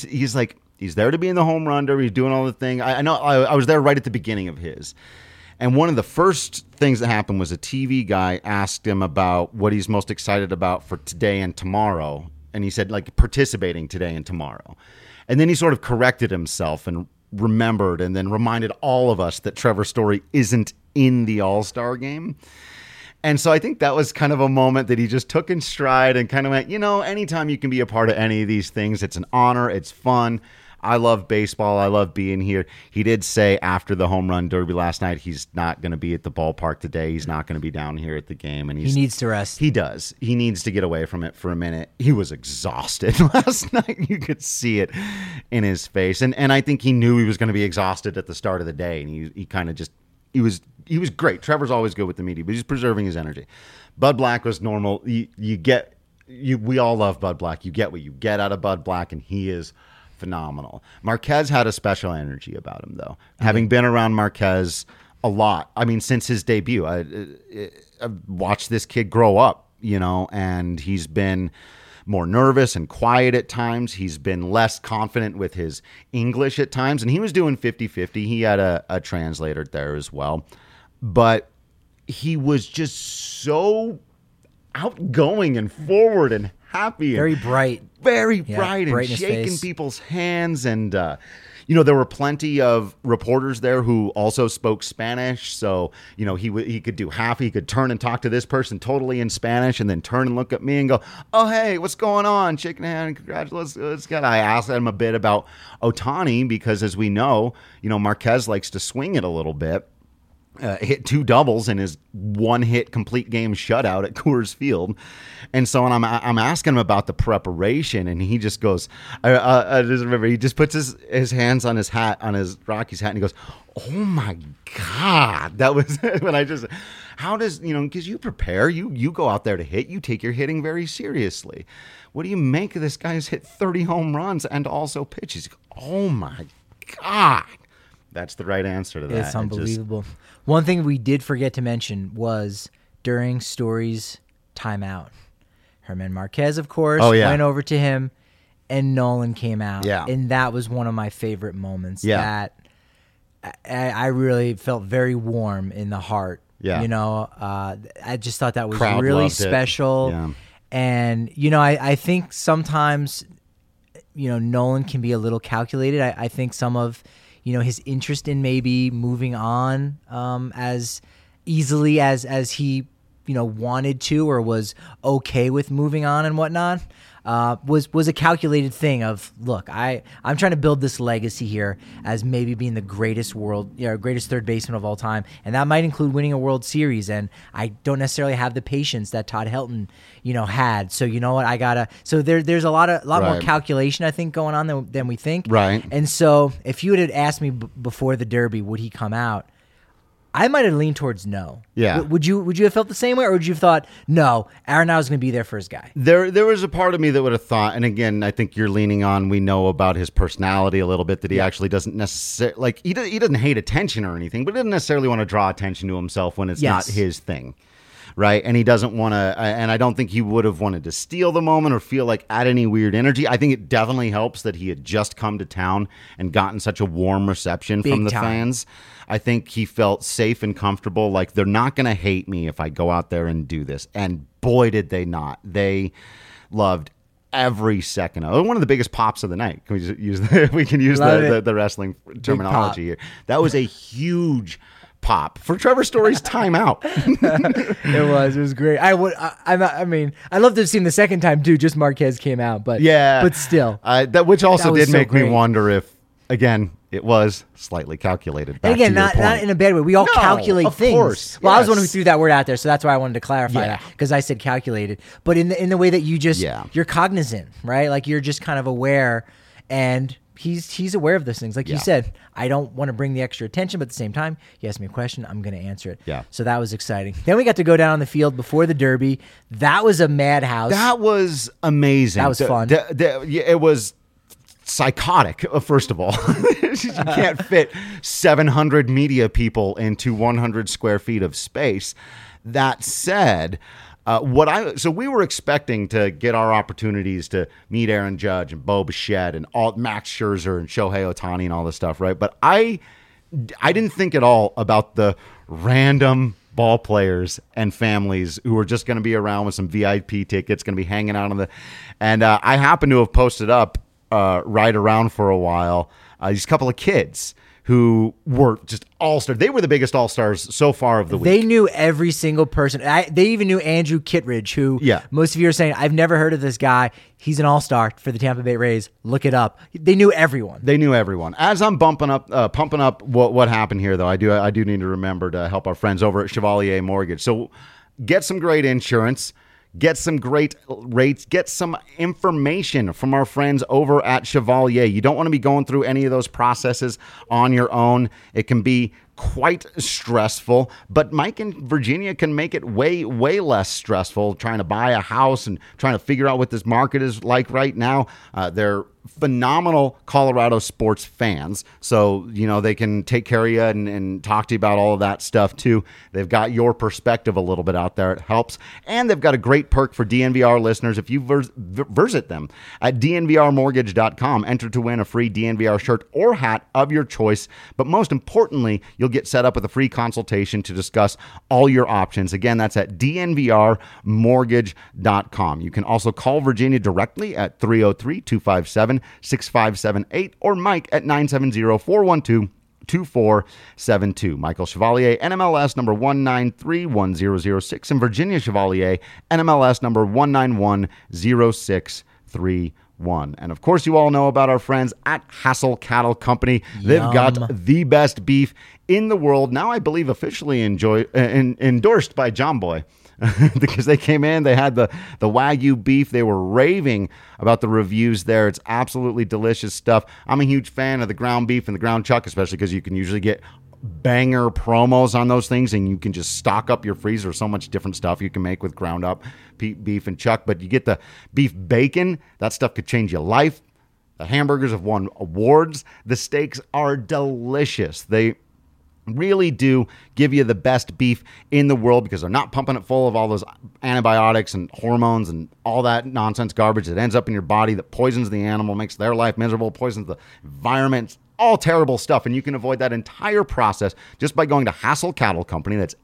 Speaker 1: he's there to be in the home run derby. He's doing all the thing. I know I was there right at the beginning of his. And one of the first things that happened was a TV guy asked him about what he's most excited about for today and tomorrow. And he said, like, participating today and tomorrow. And then he sort of corrected himself and remembered and then reminded all of us that Trevor Story isn't in the All-Star game. And so I think that was kind of a moment that he just took in stride and kind of went, anytime you can be a part of any of these things, it's an honor, it's fun. I love baseball. I love being here. He did say after the home run derby last night, he's not going to be at the ballpark today. He's not going to be down here at the game. And
Speaker 2: he needs to rest.
Speaker 1: He does. He needs to get away from it for a minute. He was exhausted last night. You could see it in his face. And I think he knew he was going to be exhausted at the start of the day. And he kind of just, he was was great. Trevor's always good with the media, but he's preserving his energy. Bud Black was normal. We all love Bud Black. You get what you get out of Bud Black, and he is phenomenal. Marquez had a special energy about him, though. Having been around Marquez a lot, I mean, since his debut, I've watched this kid grow up, and he's been more nervous and quiet at times. He's been less confident with his English at times, and he was doing 50-50. He had a translator there as well. But he was just so outgoing and forward and happy.
Speaker 2: Very bright.
Speaker 1: Very bright and shaking people's hands. And, there were plenty of reporters there who also spoke Spanish. So, he could do half. He could turn and talk to this person totally in Spanish and then turn and look at me and go, oh, hey, what's going on? Shaking a hand. Congratulations. I asked him a bit about Ohtani because, as we know, Marquez likes to swing it a little bit. Hit 2 doubles in his 1-hit complete game shutout at Coors Field. And so I'm asking him about the preparation, and he just goes, I just remember, he just puts his hands on his hat, on his Rockies hat, and he goes, oh my God. That was when how does, because you prepare, you go out there to hit, you take your hitting very seriously. What do you make of this guy who's hit 30 home runs and also pitches? Oh my God. That's the right answer to that.
Speaker 2: It's unbelievable. One thing we did forget to mention was during Story's timeout, Herman Marquez, of course, went over to him, and Nolan came out.
Speaker 1: Yeah.
Speaker 2: And that was one of my favorite moments.
Speaker 1: Yeah.
Speaker 2: That I really felt very warm in the heart.
Speaker 1: Yeah.
Speaker 2: I just thought that was
Speaker 1: Crowd
Speaker 2: really
Speaker 1: loved
Speaker 2: special.
Speaker 1: it. Yeah.
Speaker 2: And, I think sometimes, Nolan can be a little calculated. I think some of his interest in maybe moving on as easily as he, wanted to or was okay with moving on and whatnot, was a calculated thing of, look, I'm trying to build this legacy here as maybe being the greatest third baseman of all time, and that might include winning a World Series, and I don't necessarily have the patience that Todd Helton, had. So you know what, so there's a lot more calculation, I think, going on than we think.
Speaker 1: Right.
Speaker 2: And so if you had asked me before the Derby, would he come out? I might have leaned towards no.
Speaker 1: Yeah.
Speaker 2: Would you have felt the same way, or would you have thought, no, Arenado is going to be there for his guy?
Speaker 1: There was a part of me that would have thought, and again, I think you're leaning on, we know about his personality a little bit, that he actually doesn't necessarily, he doesn't hate attention or anything, but he doesn't necessarily want to draw attention to himself when it's not his thing. Right. And he doesn't want to, and I don't think he would have wanted to steal the moment or feel like add any weird energy. I think it definitely helps that he had just come to town and gotten such a warm reception from the fans. I think he felt safe and comfortable. Like, they're not going to hate me if I go out there and do this. And boy, did they not. They loved every second of it. One of the biggest pops of the night. Can we just use the wrestling terminology here? That was a huge pop for Trevor Story's timeout.
Speaker 2: It was great. I love to have seen the second time too. Just Marquez came out, but still,
Speaker 1: which also did make me wonder if, again, it was slightly calculated.
Speaker 2: And again, not in a bad way. We all calculate things.
Speaker 1: Course,
Speaker 2: well, I was the one who threw that word out there, so that's why I wanted to clarify that, because I said calculated, but in the way that you just you're cognizant, right? Like, you're just kind of aware, and he's aware of those things. Like you said, I don't want to bring the extra attention, but at the same time, he asked me a question, I'm going to answer it.
Speaker 1: Yeah.
Speaker 2: So that was exciting. Then we got to go down on the field before the Derby. That was a madhouse.
Speaker 1: That was amazing.
Speaker 2: That was fun.
Speaker 1: It was psychotic, first of all. You can't fit 700 media people into 100 square feet of space. That said, so we were expecting to get our opportunities to meet Aaron Judge and Bo Bichette and Max Scherzer and Shohei Ohtani and all this stuff, right? But I didn't think at all about the random ball players and families who were just going to be around with some VIP tickets, going to be hanging out and I happen to have posted up right around for a while these couple of kids who were just all-stars. They were the biggest all-stars so far of the week.
Speaker 2: They knew every single person. They even knew Andrew Kittredge, who most of you are saying, I've never heard of this guy. He's an all-star for the Tampa Bay Rays. Look it up. They knew everyone.
Speaker 1: As I'm pumping up what happened here, though, I do need to remember to help our friends over at Chevalier Mortgage. So get some great insurance. Get some great rates. Get some information from our friends over at Chevalier. You don't want to be going through any of those processes on your own. It can be quite stressful, but Mike in Virginia can make it way, way less stressful trying to buy a house and trying to figure out what this market is like right now. They're phenomenal Colorado sports fans, so they can take care of you and talk to you about all of that stuff too. They've got your perspective a little bit out there. It helps, and they've got a great perk for DNVR listeners. If you visit them at dnvrmortgage.com, enter to win a free DNVR shirt or hat of your choice, but most importantly, you'll get set up with a free consultation to discuss all your options. Again, that's at dnvrmortgage.com. You can also call Virginia directly at 303-257-6578 or Mike at 970-412-2472. Michael Chevalier, NMLS number 1931006, and Virginia Chevalier, NMLS number 1910631. And of course, you all know about our friends at Hassel Cattle Company. They've got the best beef in the world. Now, I believe officially endorsed by John Boy. Because they came in, they had the Wagyu beef. They were raving about the reviews there. It's absolutely delicious stuff. I'm a huge fan of the ground beef and the ground chuck, especially because you can usually get banger promos on those things, and you can just stock up your freezer. So much different stuff you can make with ground up beef and chuck. But you get the beef bacon. That stuff could change your life. The hamburgers have won awards. The steaks are delicious. They really do give you the best beef in the world because they're not pumping it full of all those antibiotics and hormones and all that nonsense garbage that ends up in your body that poisons the animal, makes their life miserable, poisons the environment. It's all terrible stuff, and you can avoid that entire process just by going to Hassel Cattle Company. That's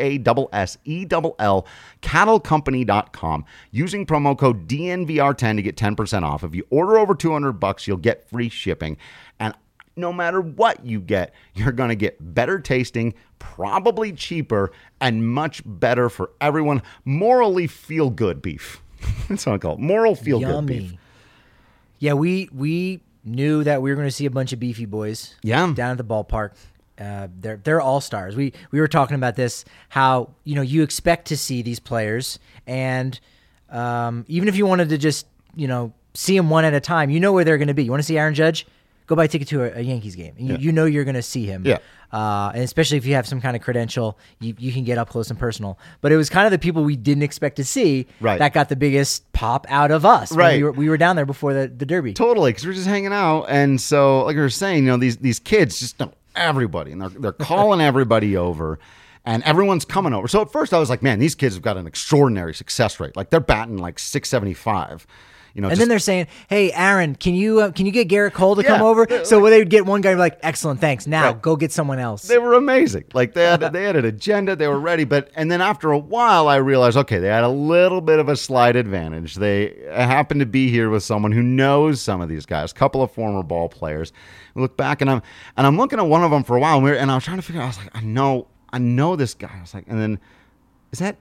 Speaker 1: HASSELL, cattlecompany.com, using promo code DNVR10 to get 10% off. If you order over $200, you'll get free shipping. And no matter what you get, you're going to get better tasting, probably cheaper, and much better for everyone. Morally feel-good beef. That's what I call it. Moral feel-good beef.
Speaker 2: Yeah, we knew that we were going to see a bunch of beefy boys down at the ballpark. They're all-stars. We were talking about this, how you expect to see these players, and even if you wanted to just see them one at a time, where they're going to be. You want to see Aaron Judge? Go buy a ticket to a Yankees game. You know you're going to see him. Yeah. And especially if you have some kind of credential, you can get up close and personal. But it was kind of the people we didn't expect to see that got the biggest pop out of us.
Speaker 1: Right.
Speaker 2: We were down there before the Derby.
Speaker 1: Totally, because we were just hanging out. And so, like we were saying, these kids just know everybody. And they're calling everybody over. And everyone's coming over. So at first I was like, man, these kids have got an extraordinary success rate. Like they're batting like .675.
Speaker 2: Then they're saying, "Hey, Aaron, can you get Garrett Cole to come over?" So they would get one guy like, "Excellent, thanks. Now go get someone else."
Speaker 1: They were amazing. Like they had an agenda. They were ready. And then after a while, I realized, okay, they had a little bit of a slight advantage. They happened to be here with someone who knows some of these guys, a couple of former ball players. We look back, and I'm looking at one of them for a while, and I was trying to figure out. I was like, I know this guy. I was like, and then is that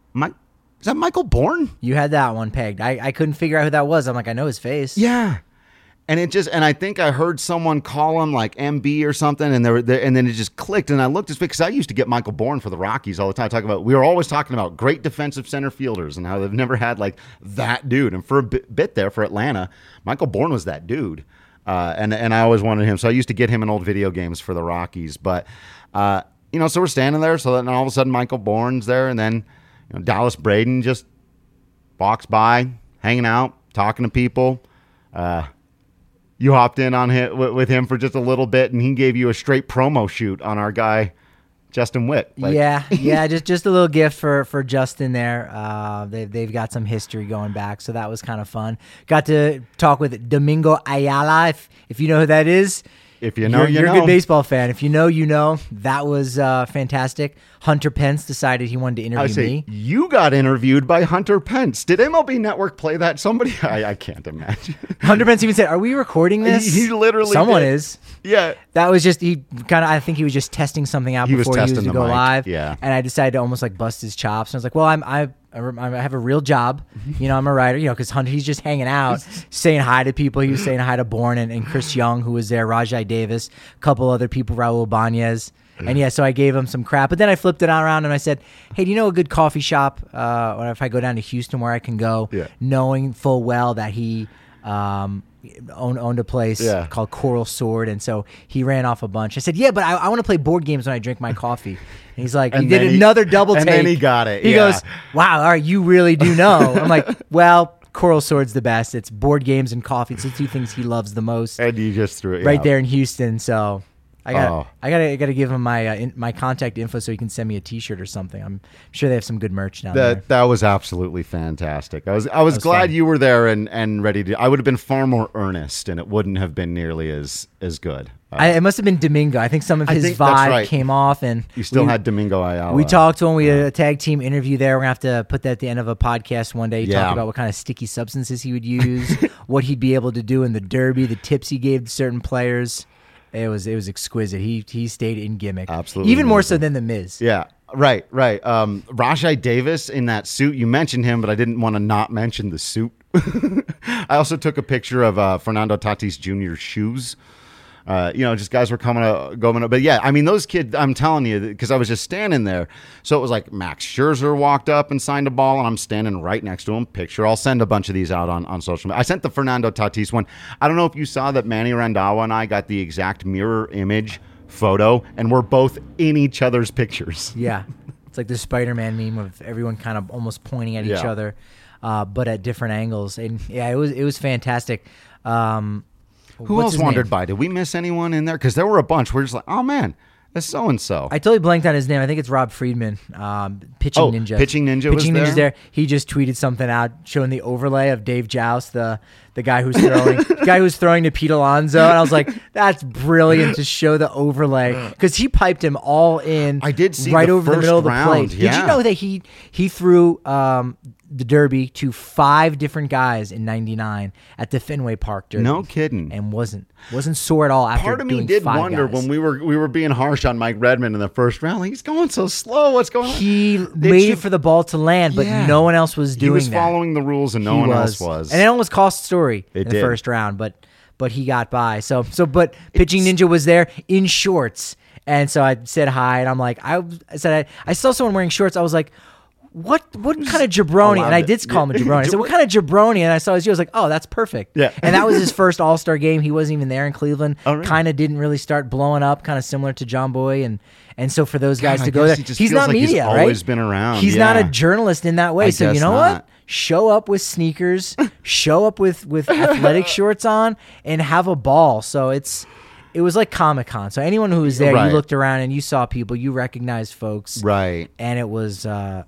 Speaker 1: Michael Bourne?
Speaker 2: You had that one pegged. I couldn't figure out who that was. I'm like, I know his face.
Speaker 1: Yeah. And I think I heard someone call him like MB or something, and and then it just clicked, and I looked at it because I used to get Michael Bourne for the Rockies all the time. We were always talking about great defensive center fielders and how they've never had like that dude. And for a bit there for Atlanta, Michael Bourne was that dude. And I always wanted him. So I used to get him in old video games for the Rockies. But, so we're standing there. So then all of a sudden Michael Bourne's there, and then Dallas Braden just walks by, hanging out, talking to people. You hopped in on him with him for just a little bit, and he gave you a straight promo shoot on our guy Justin Witt.
Speaker 2: Just a little gift for Justin there. They've got some history going back, so that was kind of fun. Got to talk with Domingo Ayala, if you know who that is.
Speaker 1: If you know,
Speaker 2: you're a good baseball fan. If you know, you know. That was fantastic. Hunter Pence decided he wanted to interview me.
Speaker 1: You got interviewed by Hunter Pence. Did MLB Network play that? Somebody? I can't imagine.
Speaker 2: Hunter Pence even said, "Are we recording this?"
Speaker 1: He literally
Speaker 2: Someone
Speaker 1: did.
Speaker 2: is.
Speaker 1: Yeah.
Speaker 2: That was just, I think he was just testing something out before he was to go live.
Speaker 1: Yeah.
Speaker 2: And I decided to almost like bust his chops. And I was like, well, I have a real job. I'm a writer, because Hunter, he's just hanging out, saying hi to people. He was saying hi to Bourne and Chris Young, who was there, Rajai Davis, a couple other people, Raul Banez. And so I gave him some crap. But then I flipped it around and I said, hey, do you know a good coffee shop? Or if I go down to Houston where I can go, knowing full well that he owned a place called Coral Sword, and so he ran off a bunch. I said, yeah, but I want to play board games when I drink my coffee. And he's like, he did another double take.
Speaker 1: And then he got it.
Speaker 2: He goes, wow, all right, you really do know. I'm like, well, Coral Sword's the best. It's board games and coffee. It's the two things he loves the most.
Speaker 1: And you just threw it
Speaker 2: right there in Houston. So I gotta give him my contact info so he can send me a T-shirt or something. I'm sure they have some good merch down there.
Speaker 1: That was absolutely fantastic. I was glad you were there and ready to. I would have been far more earnest, and it wouldn't have been nearly as good.
Speaker 2: It must have been Domingo. I think some of his vibe came off, and
Speaker 1: you still had Domingo Ayala.
Speaker 2: We talked to him. We had a tag team interview there. We're gonna have to put that at the end of a podcast one day. He talked about what kind of sticky substances he would use, what he'd be able to do in the Derby, the tips he gave to certain players. It was exquisite. He stayed in gimmick.
Speaker 1: Absolutely.
Speaker 2: Even more so than The Miz.
Speaker 1: Yeah, right. Rajai Davis in that suit. You mentioned him, but I didn't want to not mention the suit. I also took a picture of Fernando Tatis Jr.'s shoes. Just guys were going up. But yeah, I mean, those kids, I'm telling you, because I was just standing there. So it was like Max Scherzer walked up and signed a ball, and I'm standing right next to him. Picture. I'll send a bunch of these out on social media. I sent the Fernando Tatis one. I don't know if you saw that Manny Randhawa and I got the exact mirror image photo, and we're both in each other's pictures.
Speaker 2: Yeah. It's like the Spider-Man meme of everyone kind of almost pointing at each other, but at different angles. And yeah, it was fantastic.
Speaker 1: Who else wandered by? Did we miss anyone in there? Because there were a bunch. We're just like, oh, man, that's so-and-so.
Speaker 2: I totally blanked on his name. I think it's Rob Friedman, Pitching Ninja.
Speaker 1: Pitching Ninja was there?
Speaker 2: Ninja's there. He just tweeted something out showing the overlay of Dave Joust, the guy who's throwing to Pete Alonso. And I was like, that's brilliant to show the overlay. Because he piped him all in.
Speaker 1: I did see
Speaker 2: right
Speaker 1: the
Speaker 2: over the middle of the
Speaker 1: round,
Speaker 2: plate. Did you know that he threw the Derby to 5 different guys in '99 at the Fenway Park Derby?
Speaker 1: No kidding.
Speaker 2: And wasn't sore at all after
Speaker 1: Part of me
Speaker 2: doing
Speaker 1: did
Speaker 2: 5
Speaker 1: wonder
Speaker 2: guys.
Speaker 1: when we were being harsh on Mike Redmond in the first round. Like, he's going so slow. What's going on?
Speaker 2: He waited for the ball to land, but no one else was doing that.
Speaker 1: He was following the rules, and no one else was.
Speaker 2: And it almost cost Story in the first round, but he got by. But Pitching Ninja was there in shorts, and so I said hi, and I'm like, I saw someone wearing shorts. I was like, what kind of jabroni? And I did call him a jabroni. I said, what kind of jabroni? And I saw his shoe. I was like, oh, that's perfect.
Speaker 1: Yeah.
Speaker 2: And that was his first All-Star game. He wasn't even there in Cleveland.
Speaker 1: Oh, really?
Speaker 2: Kind of didn't really start blowing up, kind of similar to John Boy. And so for those guys to go there, he's not
Speaker 1: like
Speaker 2: media,
Speaker 1: he's
Speaker 2: right?
Speaker 1: always been around.
Speaker 2: He's not a journalist in that way. So you know what? Show up with sneakers, show up with athletic shorts on, and have a ball. So it was like Comic-Con. So anyone who was there, you looked around and you saw people, you recognized folks.
Speaker 1: Right.
Speaker 2: And it was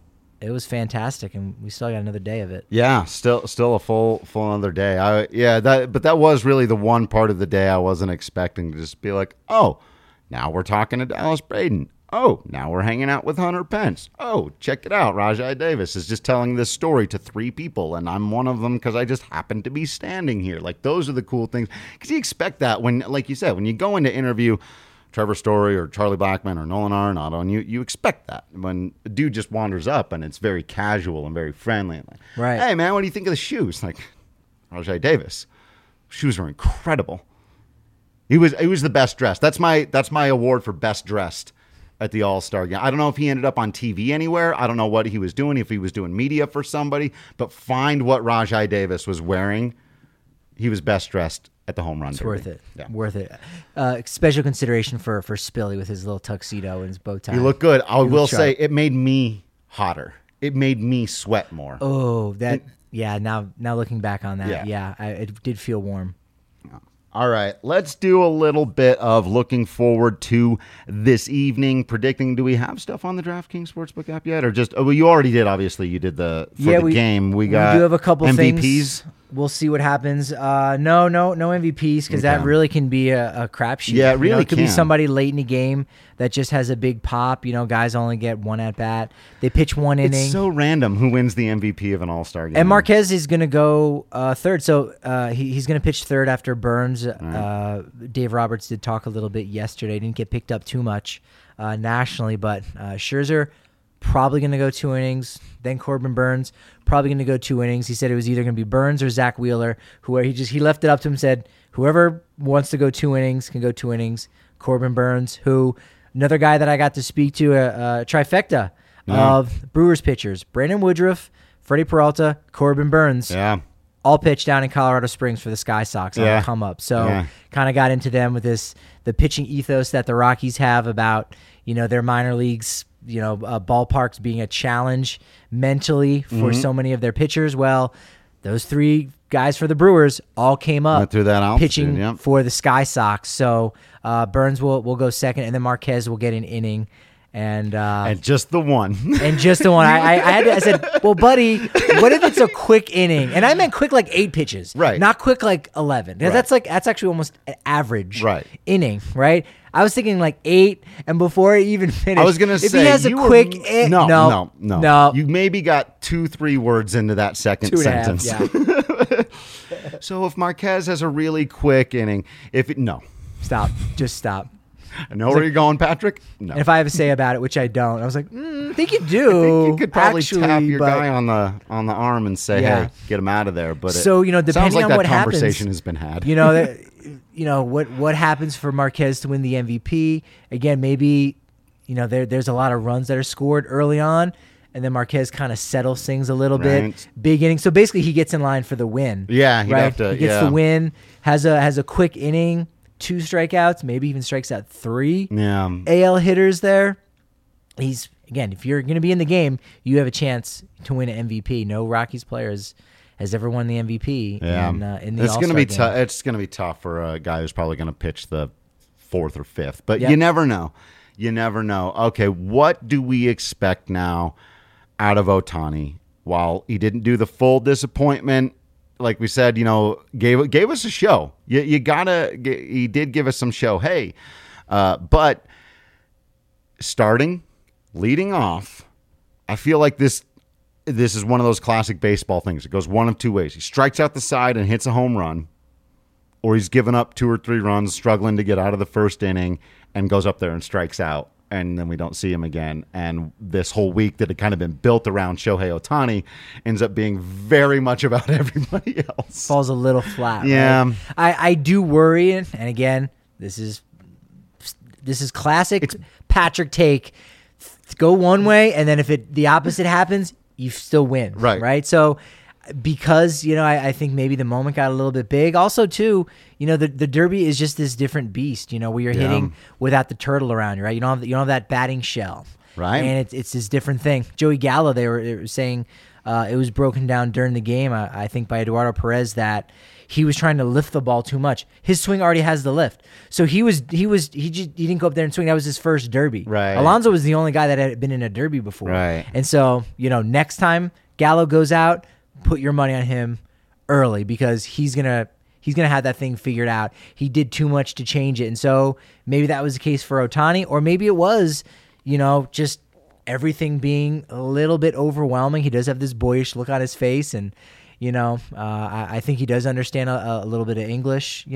Speaker 2: fantastic, and we still got another day of it.
Speaker 1: Yeah, still a full another day. But that was really the one part of the day I wasn't expecting to just be like, oh, now we're talking to Dallas Braden. Oh, now we're hanging out with Hunter Pence. Oh, check it out. Rajai Davis is just telling this story to 3 people, and I'm one of them because I just happen to be standing here. Like, those are the cool things. Because you expect that when, like you said, when you go into interview Trevor Story or Charlie Blackmon or Nolan Arenado, and you expect that when a dude just wanders up and it's very casual and very friendly. And like,
Speaker 2: right.
Speaker 1: Hey, man, what do you think of the shoes? Like, Rajai Davis. Shoes are incredible. He was the best dressed. That's my award for best dressed at the All-Star game. I don't know if he ended up on TV anywhere. I don't know what he was doing, if he was doing media for somebody, but find what Rajai Davis was wearing. He was best dressed at the home run.
Speaker 2: It's worth it. Yeah. Worth it. Special consideration for Spilly with his little tuxedo and his bow tie.
Speaker 1: He looked good. I will say it made me hotter. It made me sweat more.
Speaker 2: Oh, now looking back on that, it did feel warm.
Speaker 1: All right, let's do a little bit of looking forward to this evening, predicting. Do we have stuff on the DraftKings Sportsbook app yet? Or just, you already did, obviously. You did the game. We do
Speaker 2: have a couple
Speaker 1: MVPs.
Speaker 2: Things. We'll see what happens. No MVPs, because that really can be a crapshoot.
Speaker 1: Yeah, it really
Speaker 2: it could be somebody late in the game that just has a big pop. Guys only get one at bat. They pitch one inning.
Speaker 1: It's so random who wins the MVP of an All-Star game.
Speaker 2: And Marquez is going to go third. So he's going to pitch third after Burns.
Speaker 1: Right.
Speaker 2: Dave Roberts did talk a little bit yesterday. Didn't get picked up too much nationally, but Scherzer probably going to go 2 innings. Then Corbin Burns probably going to go 2 innings. He said it was either going to be Burns or Zach Wheeler. He left it up to him. Said whoever wants to go 2 innings can go 2 innings. Corbin Burns, another guy that I got to speak to, a trifecta of Brewers pitchers: Brandon Woodruff, Freddie Peralta, Corbin Burns.
Speaker 1: Yeah.
Speaker 2: all pitched down in Colorado Springs for the Sky Sox on the come up. So kind of got into them with the pitching ethos that the Rockies have about, their minor leagues, ballparks being a challenge mentally for so many of their pitchers. Well, those 3 guys for the Brewers all came up
Speaker 1: through that
Speaker 2: pitching for the Sky Sox. So Burns will go second, and then Marquez will get an inning. And
Speaker 1: just the one.
Speaker 2: And just the one. I said, well, buddy, what if it's a quick inning? And I meant quick like 8 pitches.
Speaker 1: Right.
Speaker 2: Not quick like 11. Because that's actually almost an average inning, right? I was thinking like 8, and before I even finished,
Speaker 1: I was going to say,
Speaker 2: if he has a quick
Speaker 1: no. You maybe got 2-3 words into that second sentence.
Speaker 2: 2.5, yeah.
Speaker 1: So if Marquez has a really quick inning,
Speaker 2: Stop. Just stop.
Speaker 1: I know where you're going, Patrick. No.
Speaker 2: And if I have a say about it, which I don't, I was like, I think you do.
Speaker 1: I think you could probably tap your guy on the arm and say, "Hey, get him out of there." But
Speaker 2: depending
Speaker 1: sounds like
Speaker 2: on
Speaker 1: that
Speaker 2: what
Speaker 1: conversation
Speaker 2: happens,
Speaker 1: has been had.
Speaker 2: What happens for Marquez to win the MVP? Again, maybe there's a lot of runs that are scored early on, and then Marquez kind of settles things a little bit. Big inning, so basically he gets in line for the win.
Speaker 1: Yeah, he'd have to.
Speaker 2: He gets the win. Has a quick inning. 2 strikeouts, maybe even strikes out 3 AL hitters there. If you're going to be in the game, you have a chance to win an MVP. No Rockies player has ever won the MVP in the All-Star game.
Speaker 1: It's going to be tough for a guy who's probably going to pitch the 4th or 5th, but you never know. You never know. Okay, what do we expect now out of Ohtani? While he didn't do the full disappointment, like we said, gave us a show. He did give us some show. Hey, but leading off, I feel like this is one of those classic baseball things. It goes one of 2 ways. He strikes out the side and hits a home run, or he's given up 2 or 3 runs, struggling to get out of the first inning, and goes up there and strikes out. And then we don't see him again. And this whole week that had kind of been built around Shohei Ohtani ends up being very much about everybody else.
Speaker 2: Falls a little flat.
Speaker 1: Yeah.
Speaker 2: Right? I do worry, and again, this is classic Patrick take. Go one way, and then if the opposite happens, you still win. Right? So because, I think maybe the moment got a little bit big. Also, too, the Derby is just this different beast, where you're hitting without the turtle around you, right? You don't have that batting shell.
Speaker 1: Right.
Speaker 2: And it's this different thing. Joey Gallo, they were saying it was broken down during the game, I think, by Eduardo Perez, that he was trying to lift the ball too much. His swing already has the lift. So he didn't go up there and swing. That was his first Derby.
Speaker 1: Right.
Speaker 2: Alonso was the only guy that had been in a Derby before.
Speaker 1: Right.
Speaker 2: And so, next time Gallo goes out, put your money on him early, because he's gonna have that thing figured out. He did too much to change it, and so maybe that was the case for Ohtani, or maybe it was, just everything being a little bit overwhelming. He does have this boyish look on his face, and I think he does understand a little bit of English.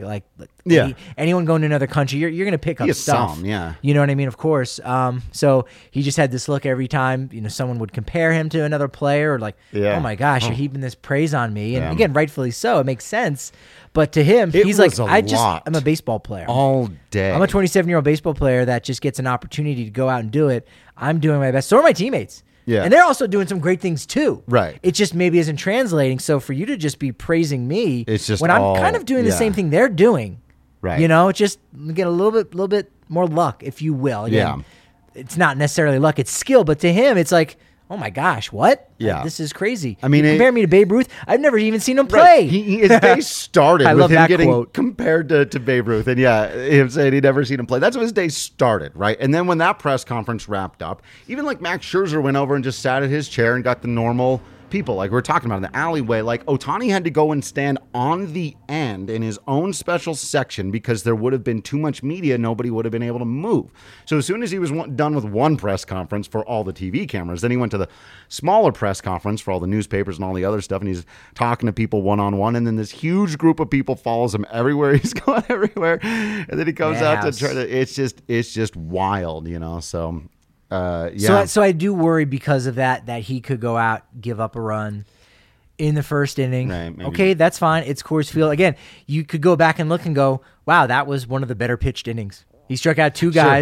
Speaker 2: Anyone going to another country, you're going to pick up stuff. You know what I mean? Of course. So he just had this look every time someone would compare him to another player, or like, oh my gosh, you're heaping this praise on me. And again, rightfully so. It makes sense. But to him, he's like, I'm a baseball player
Speaker 1: all day.
Speaker 2: I'm a 27-year-old baseball player that just gets an opportunity to go out and do it. I'm doing my best. So are my teammates.
Speaker 1: Yeah.
Speaker 2: And they're also doing some great things too.
Speaker 1: Right.
Speaker 2: It just maybe isn't translating. So for you to just be praising me,
Speaker 1: it's just
Speaker 2: when I'm kind of doing the same thing they're doing.
Speaker 1: Right.
Speaker 2: Just get a little bit more luck, if you will. Again, it's not necessarily luck, it's skill, but to him it's like, oh my gosh, what?
Speaker 1: Yeah.
Speaker 2: This is crazy.
Speaker 1: I mean,
Speaker 2: compare me to Babe Ruth. I've never even seen him play.
Speaker 1: Right. His day started with him getting compared to Babe Ruth. And him saying he'd never seen him play. That's when his day started, right? And then when that press conference wrapped up, even like Max Scherzer went over and just sat at his chair and got the normal people, like we were talking about in the alleyway. Like Ohtani had to go and stand on the end in his own special section because there would have been too much media. Nobody would have been able to move. So as soon as he was done with one press conference for all the TV cameras, then he went to the smaller press conference for all the newspapers and all the other stuff, and he's talking to people one-on-one, and then this huge group of people follows him everywhere. He's going everywhere, and then he comes out to try to, it's just wild, so
Speaker 2: So I do worry because of that he could go out, give up a run in the first inning.
Speaker 1: Right,
Speaker 2: okay, that's fine. It's Coors Field. Again, you could go back and look and go, wow, that was one of the better pitched innings. He struck out 2 guys.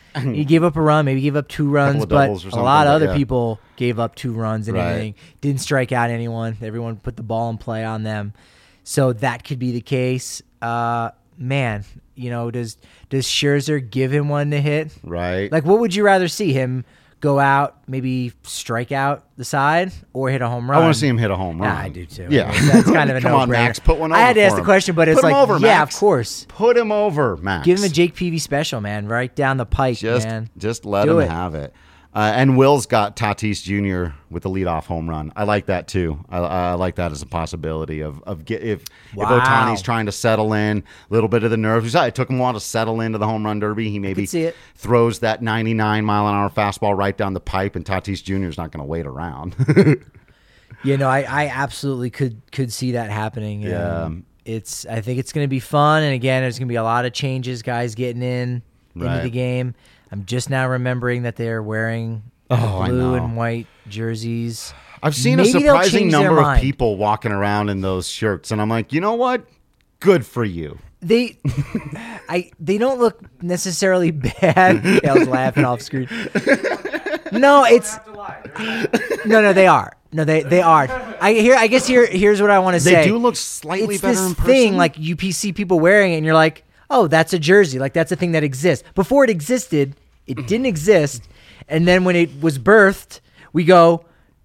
Speaker 2: He gave up a run, maybe gave up 2 runs, but a lot of other people gave up 2 runs and everything. Didn't strike out anyone. Everyone put the ball in play on them. So that could be the case. Man, does Scherzer give him one to hit?
Speaker 1: Right.
Speaker 2: Like, what would you rather see him go out, maybe strike out the side, or hit a home run?
Speaker 1: I want to see him hit a home run.
Speaker 2: Yeah, I do too.
Speaker 1: Yeah.
Speaker 2: That's kind of a
Speaker 1: Come
Speaker 2: no-brainer.
Speaker 1: on, Max, put one over
Speaker 2: I had to ask the
Speaker 1: him.
Speaker 2: question, but it's
Speaker 1: Put him
Speaker 2: like,
Speaker 1: over,
Speaker 2: yeah,
Speaker 1: Max.
Speaker 2: of course.
Speaker 1: Put him over, Max.
Speaker 2: Give him a Jake Peavy special, man, right down the pike, man.
Speaker 1: Just let him have it. And Will's got Tatis Jr. with the leadoff home run. I like that too. I like that as a possibility of if Ohtani's trying to settle in, a little bit of the nerves. It took him a while to settle into the home run derby. He maybe throws that 99-mile-an-hour fastball right down the pipe, and Tatis Jr. is not going to wait around.
Speaker 2: I absolutely could see that happening.
Speaker 1: Yeah.
Speaker 2: I think it's going to be fun, and again, there's going to be a lot of changes, guys getting into the game. I'm just now remembering that they're wearing blue and white jerseys.
Speaker 1: I've seen a surprising number of people walking around in those shirts, and I'm like, you know what? Good for you.
Speaker 2: They don't look necessarily bad. Kale's laughing off screen. No, they are. No, they are. I guess here's what I want to say.
Speaker 1: They do look slightly better in person.
Speaker 2: It's this thing, like, you see people wearing it, and you're like, oh, that's a jersey. Like, that's a thing that exists. Before it existed, it didn't exist. And then when it was birthed, we go,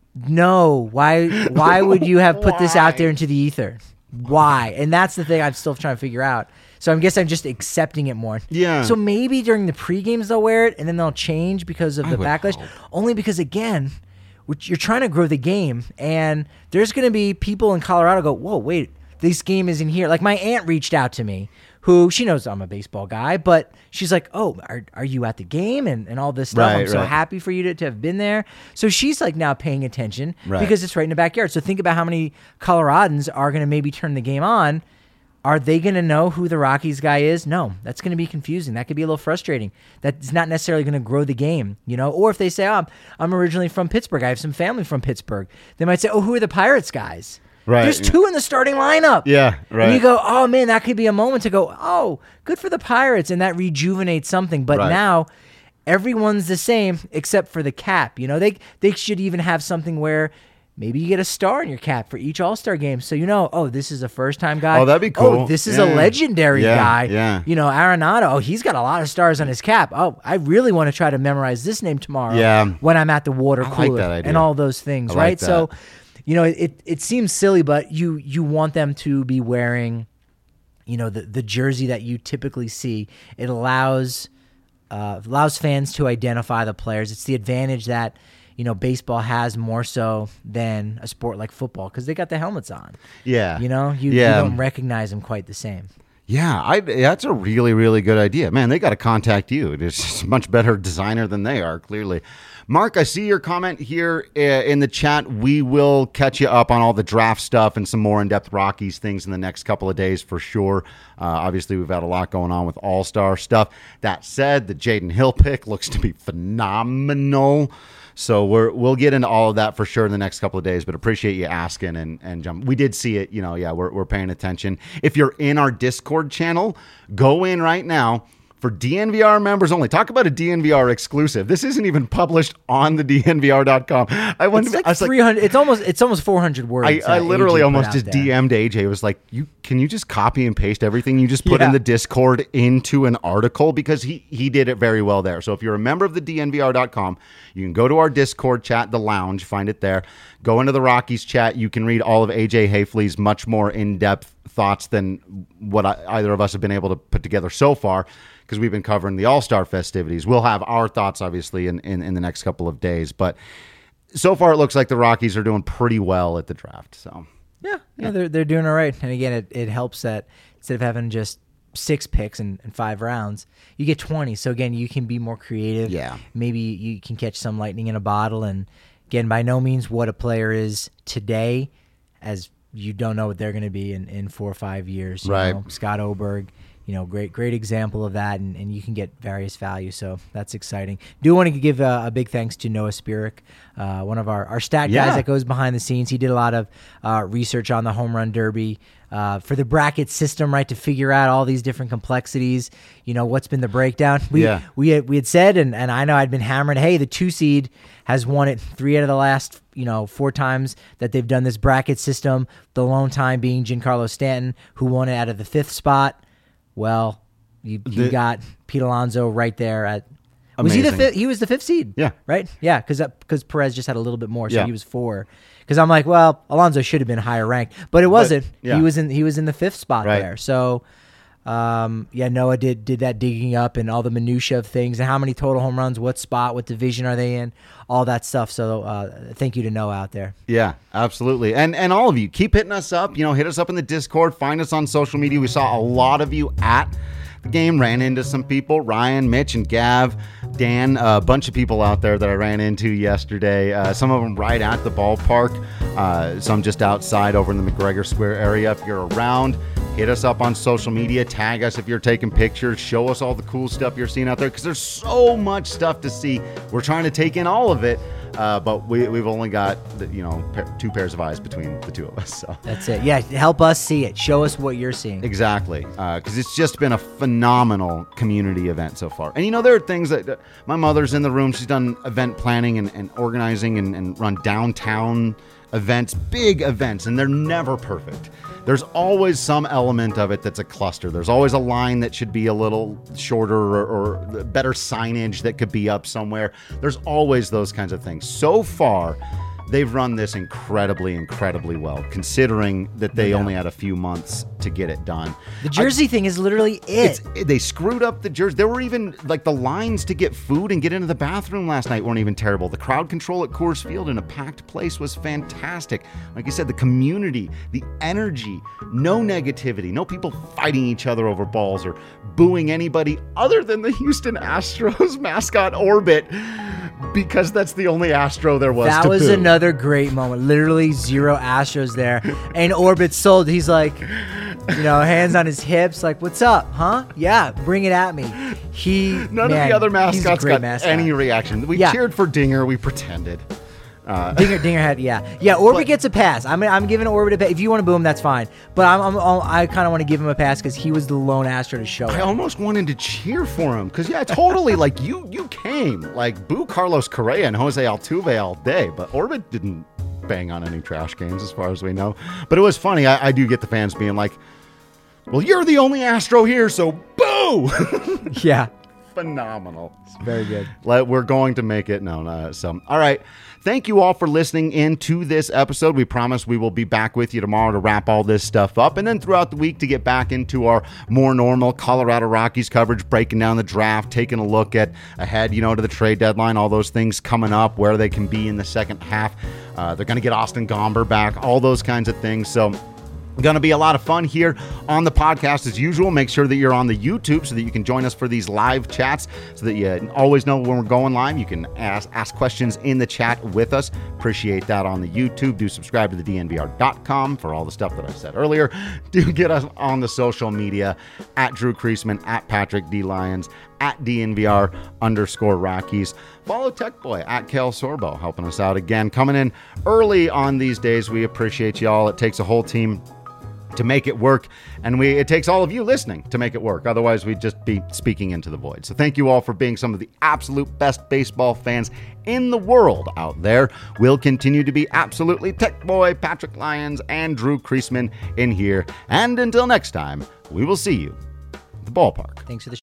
Speaker 2: no, why would you have put this out there into the ether? Why? And that's the thing I'm still trying to figure out. So I guess I'm just accepting it more.
Speaker 1: Yeah.
Speaker 2: So maybe during the pre-games they'll wear it, and then they'll change because of the backlash.
Speaker 1: Hope.
Speaker 2: Only because, again, you're trying to grow the game, and there's going to be people in Colorado go, whoa, wait, this game isn't here. Like, my aunt reached out to me, who she knows I'm a baseball guy, but she's like, oh, are you at the game and all this stuff? I'm so happy for you to have been there. So she's like now paying attention because it's right in the backyard. So think about how many Coloradans are going to maybe turn the game on. Are they going to know who the Rockies guy is? No, that's going to be confusing. That could be a little frustrating. That's not necessarily going to grow the game, Or if they say, oh, I'm originally from Pittsburgh, I have some family from Pittsburgh, they might say, oh, who are the Pirates guys? Right. There's 2 in the starting lineup.
Speaker 1: Yeah, right.
Speaker 2: And you go, oh, man, that could be a moment to go, oh, good for the Pirates, and that rejuvenates something. But now everyone's the same except for the cap. They should even have something where maybe you get a star in your cap for each All-Star game. So oh, this is a first-time guy.
Speaker 1: Oh, that'd be cool.
Speaker 2: Oh, this is a legendary guy.
Speaker 1: Yeah.
Speaker 2: Arenado, he's got a lot of stars on his cap. Oh, I really want to try to memorize this name tomorrow when I'm at the water cooler.
Speaker 1: I like that idea.
Speaker 2: And all those things, right? So it seems silly, but you want them to be wearing, the jersey that you typically see. It allows fans to identify the players. It's the advantage that baseball has more so than a sport like football because they got the helmets on. Yeah, you don't recognize them quite the same.
Speaker 1: Yeah, that's a really, really good idea. Man, they got to contact you. It's just a much better designer than they are, clearly. Mark, I see your comment here in the chat. We will catch you up on all the draft stuff and some more in-depth Rockies things in the next couple of days for sure. Obviously, we've had a lot going on with All-Star stuff. That said, the Jaden Hill pick looks to be phenomenal. So we'll get into all of that for sure in the next couple of days, but appreciate you asking and jump. We did see it, we're paying attention. If you're in our Discord channel, go in right now. For DNVR members only. Talk about a DNVR exclusive. This isn't even published on the DNVR.com.
Speaker 2: It's 300. It's almost 400 words.
Speaker 1: I literally almost just DM'd AJ. Was like, can you just copy and paste everything you just put in the Discord into an article? Because he did it very well there. So if you're a member of the DNVR.com, you can go to our Discord chat, the lounge, find it there. Go into the Rockies chat. You can read all of AJ Hafley's much more in-depth thoughts than what either of us have been able to put together so far, because we've been covering the All-Star festivities. We'll have our thoughts, obviously, in the next couple of days. But so far, it looks like the Rockies are doing pretty well at the draft. So
Speaker 2: yeah, they're doing all right. And again, it helps that instead of having just 6 picks and 5 rounds, you get 20. So again, you can be more creative.
Speaker 1: Yeah.
Speaker 2: Maybe you can catch some lightning in a bottle. And again, by no means what a player is today, as you don't know what they're going to be in 4 or 5 years.
Speaker 1: Right.
Speaker 2: Scott Oberg, great example of that, and you can get various value. So that's exciting. Do want to give a big thanks to Noah Spirik, one of our stat guys that goes behind the scenes. He did a lot of research on the home run derby for the bracket system, right, to figure out all these different complexities. What's been the breakdown? We had said, and I know I'd been hammering, hey, the 2 seed has won it 3 out of the last 4 times that they've done this bracket system. The lone time being Giancarlo Stanton, who won it out of the 5th spot. Well, you got Pete Alonso right there at. Was he the 5th? He was the 5th seed.
Speaker 1: Yeah.
Speaker 2: Right. Yeah. Because Perez just had a little bit more, so he was 4. Because I'm like, well, Alonso should have been higher ranked, but it wasn't. He was in the 5th spot there. So, Noah did that digging up and all the minutia of things and how many total home runs, what spot, what division are they in, all that stuff. So thank you to Noah out there.
Speaker 1: Yeah, absolutely. And all of you, keep hitting us up. Hit us up in the Discord. Find us on social media. We saw a lot of you at the game, ran into some people, Ryan, Mitch, and Gav, Dan, a bunch of people out there that I ran into yesterday. Some of them right at the ballpark, some just outside over in the McGregor Square area. If you're around, hit us up on social media, tag us if you're taking pictures, show us all the cool stuff you're seeing out there, because there's so much stuff to see. We're trying to take in all of it, but we've only got 2 pairs of eyes between the 2 of us. So
Speaker 2: that's it. Yeah, help us see it. Show us what you're seeing.
Speaker 1: Exactly, because it's just been a phenomenal community event so far. And there are things that my mother's in the room. She's done event planning and organizing and run downtown events, big events, and they're never perfect. There's always some element of it that's a cluster. There's always a line that should be a little shorter or better signage that could be up somewhere. There's always those kinds of things. So far, they've run this incredibly, incredibly well, considering that they only had a few months to get it done.
Speaker 2: The jersey thing is literally it.
Speaker 1: They screwed up the jersey. There were even, the lines to get food and get into the bathroom last night weren't even terrible. The crowd control at Coors Field in a packed place was fantastic. Like I said, the community, the energy, no negativity, no people fighting each other over balls or booing anybody other than the Houston Astros mascot Orbit, because that's the only Astro there was to boo. That was
Speaker 2: another great moment. Literally 0 Astros there. And Orbit sold. He's like, hands on his hips, like, what's up, huh? Yeah, bring it at me. None
Speaker 1: of the other mascots got any reaction. We cheered for Dinger. We pretended.
Speaker 2: Dinger had, Orbit gets a pass. I'm giving Orbit a pass. If you want to boo him, that's fine. But I kind of want to give him a pass because he was the lone Astro to show.
Speaker 1: I almost wanted to cheer for him because totally. Like you came boo Carlos Correa and Jose Altuve all day, but Orbit didn't bang on any trash cans as far as we know. But it was funny. I do get the fans being like, "Well, you're the only Astro here, so boo!"
Speaker 2: Yeah.
Speaker 1: Phenomenal.
Speaker 2: It's very good.
Speaker 1: We're going to make it known. All right. Thank you all for listening in to this episode. We promise we will be back with you tomorrow to wrap all this stuff up, and then throughout the week to get back into our more normal Colorado Rockies coverage, breaking down the draft, taking a look at ahead, to the trade deadline, all those things coming up, where they can be in the second half. They're going to get Austin Gomber back, all those kinds of things. So going to be a lot of fun here on the podcast as usual. Make sure that you're on the YouTube so that you can join us for these live chats so that you always know when we're going live. You can ask questions in the chat with us. Appreciate that on the YouTube. Do subscribe to the DNVR.com for all the stuff that I said earlier. Do get us on the social media at Drew Creasman, at Patrick D. Lyons, at DNVR_Rockies. Follow Tech Boy at Kale Sorbo, helping us out again. Coming in early on these days. We appreciate y'all. It takes a whole team to make it work, and it takes all of you listening to make it work. Otherwise, we'd just be speaking into the void. So thank you all for being some of the absolute best baseball fans in the world out there. We'll continue to be absolutely Tech Boy, Patrick Lyons, and Drew Creasman in here. And until next time, we will see you at the ballpark.
Speaker 2: Thanks for the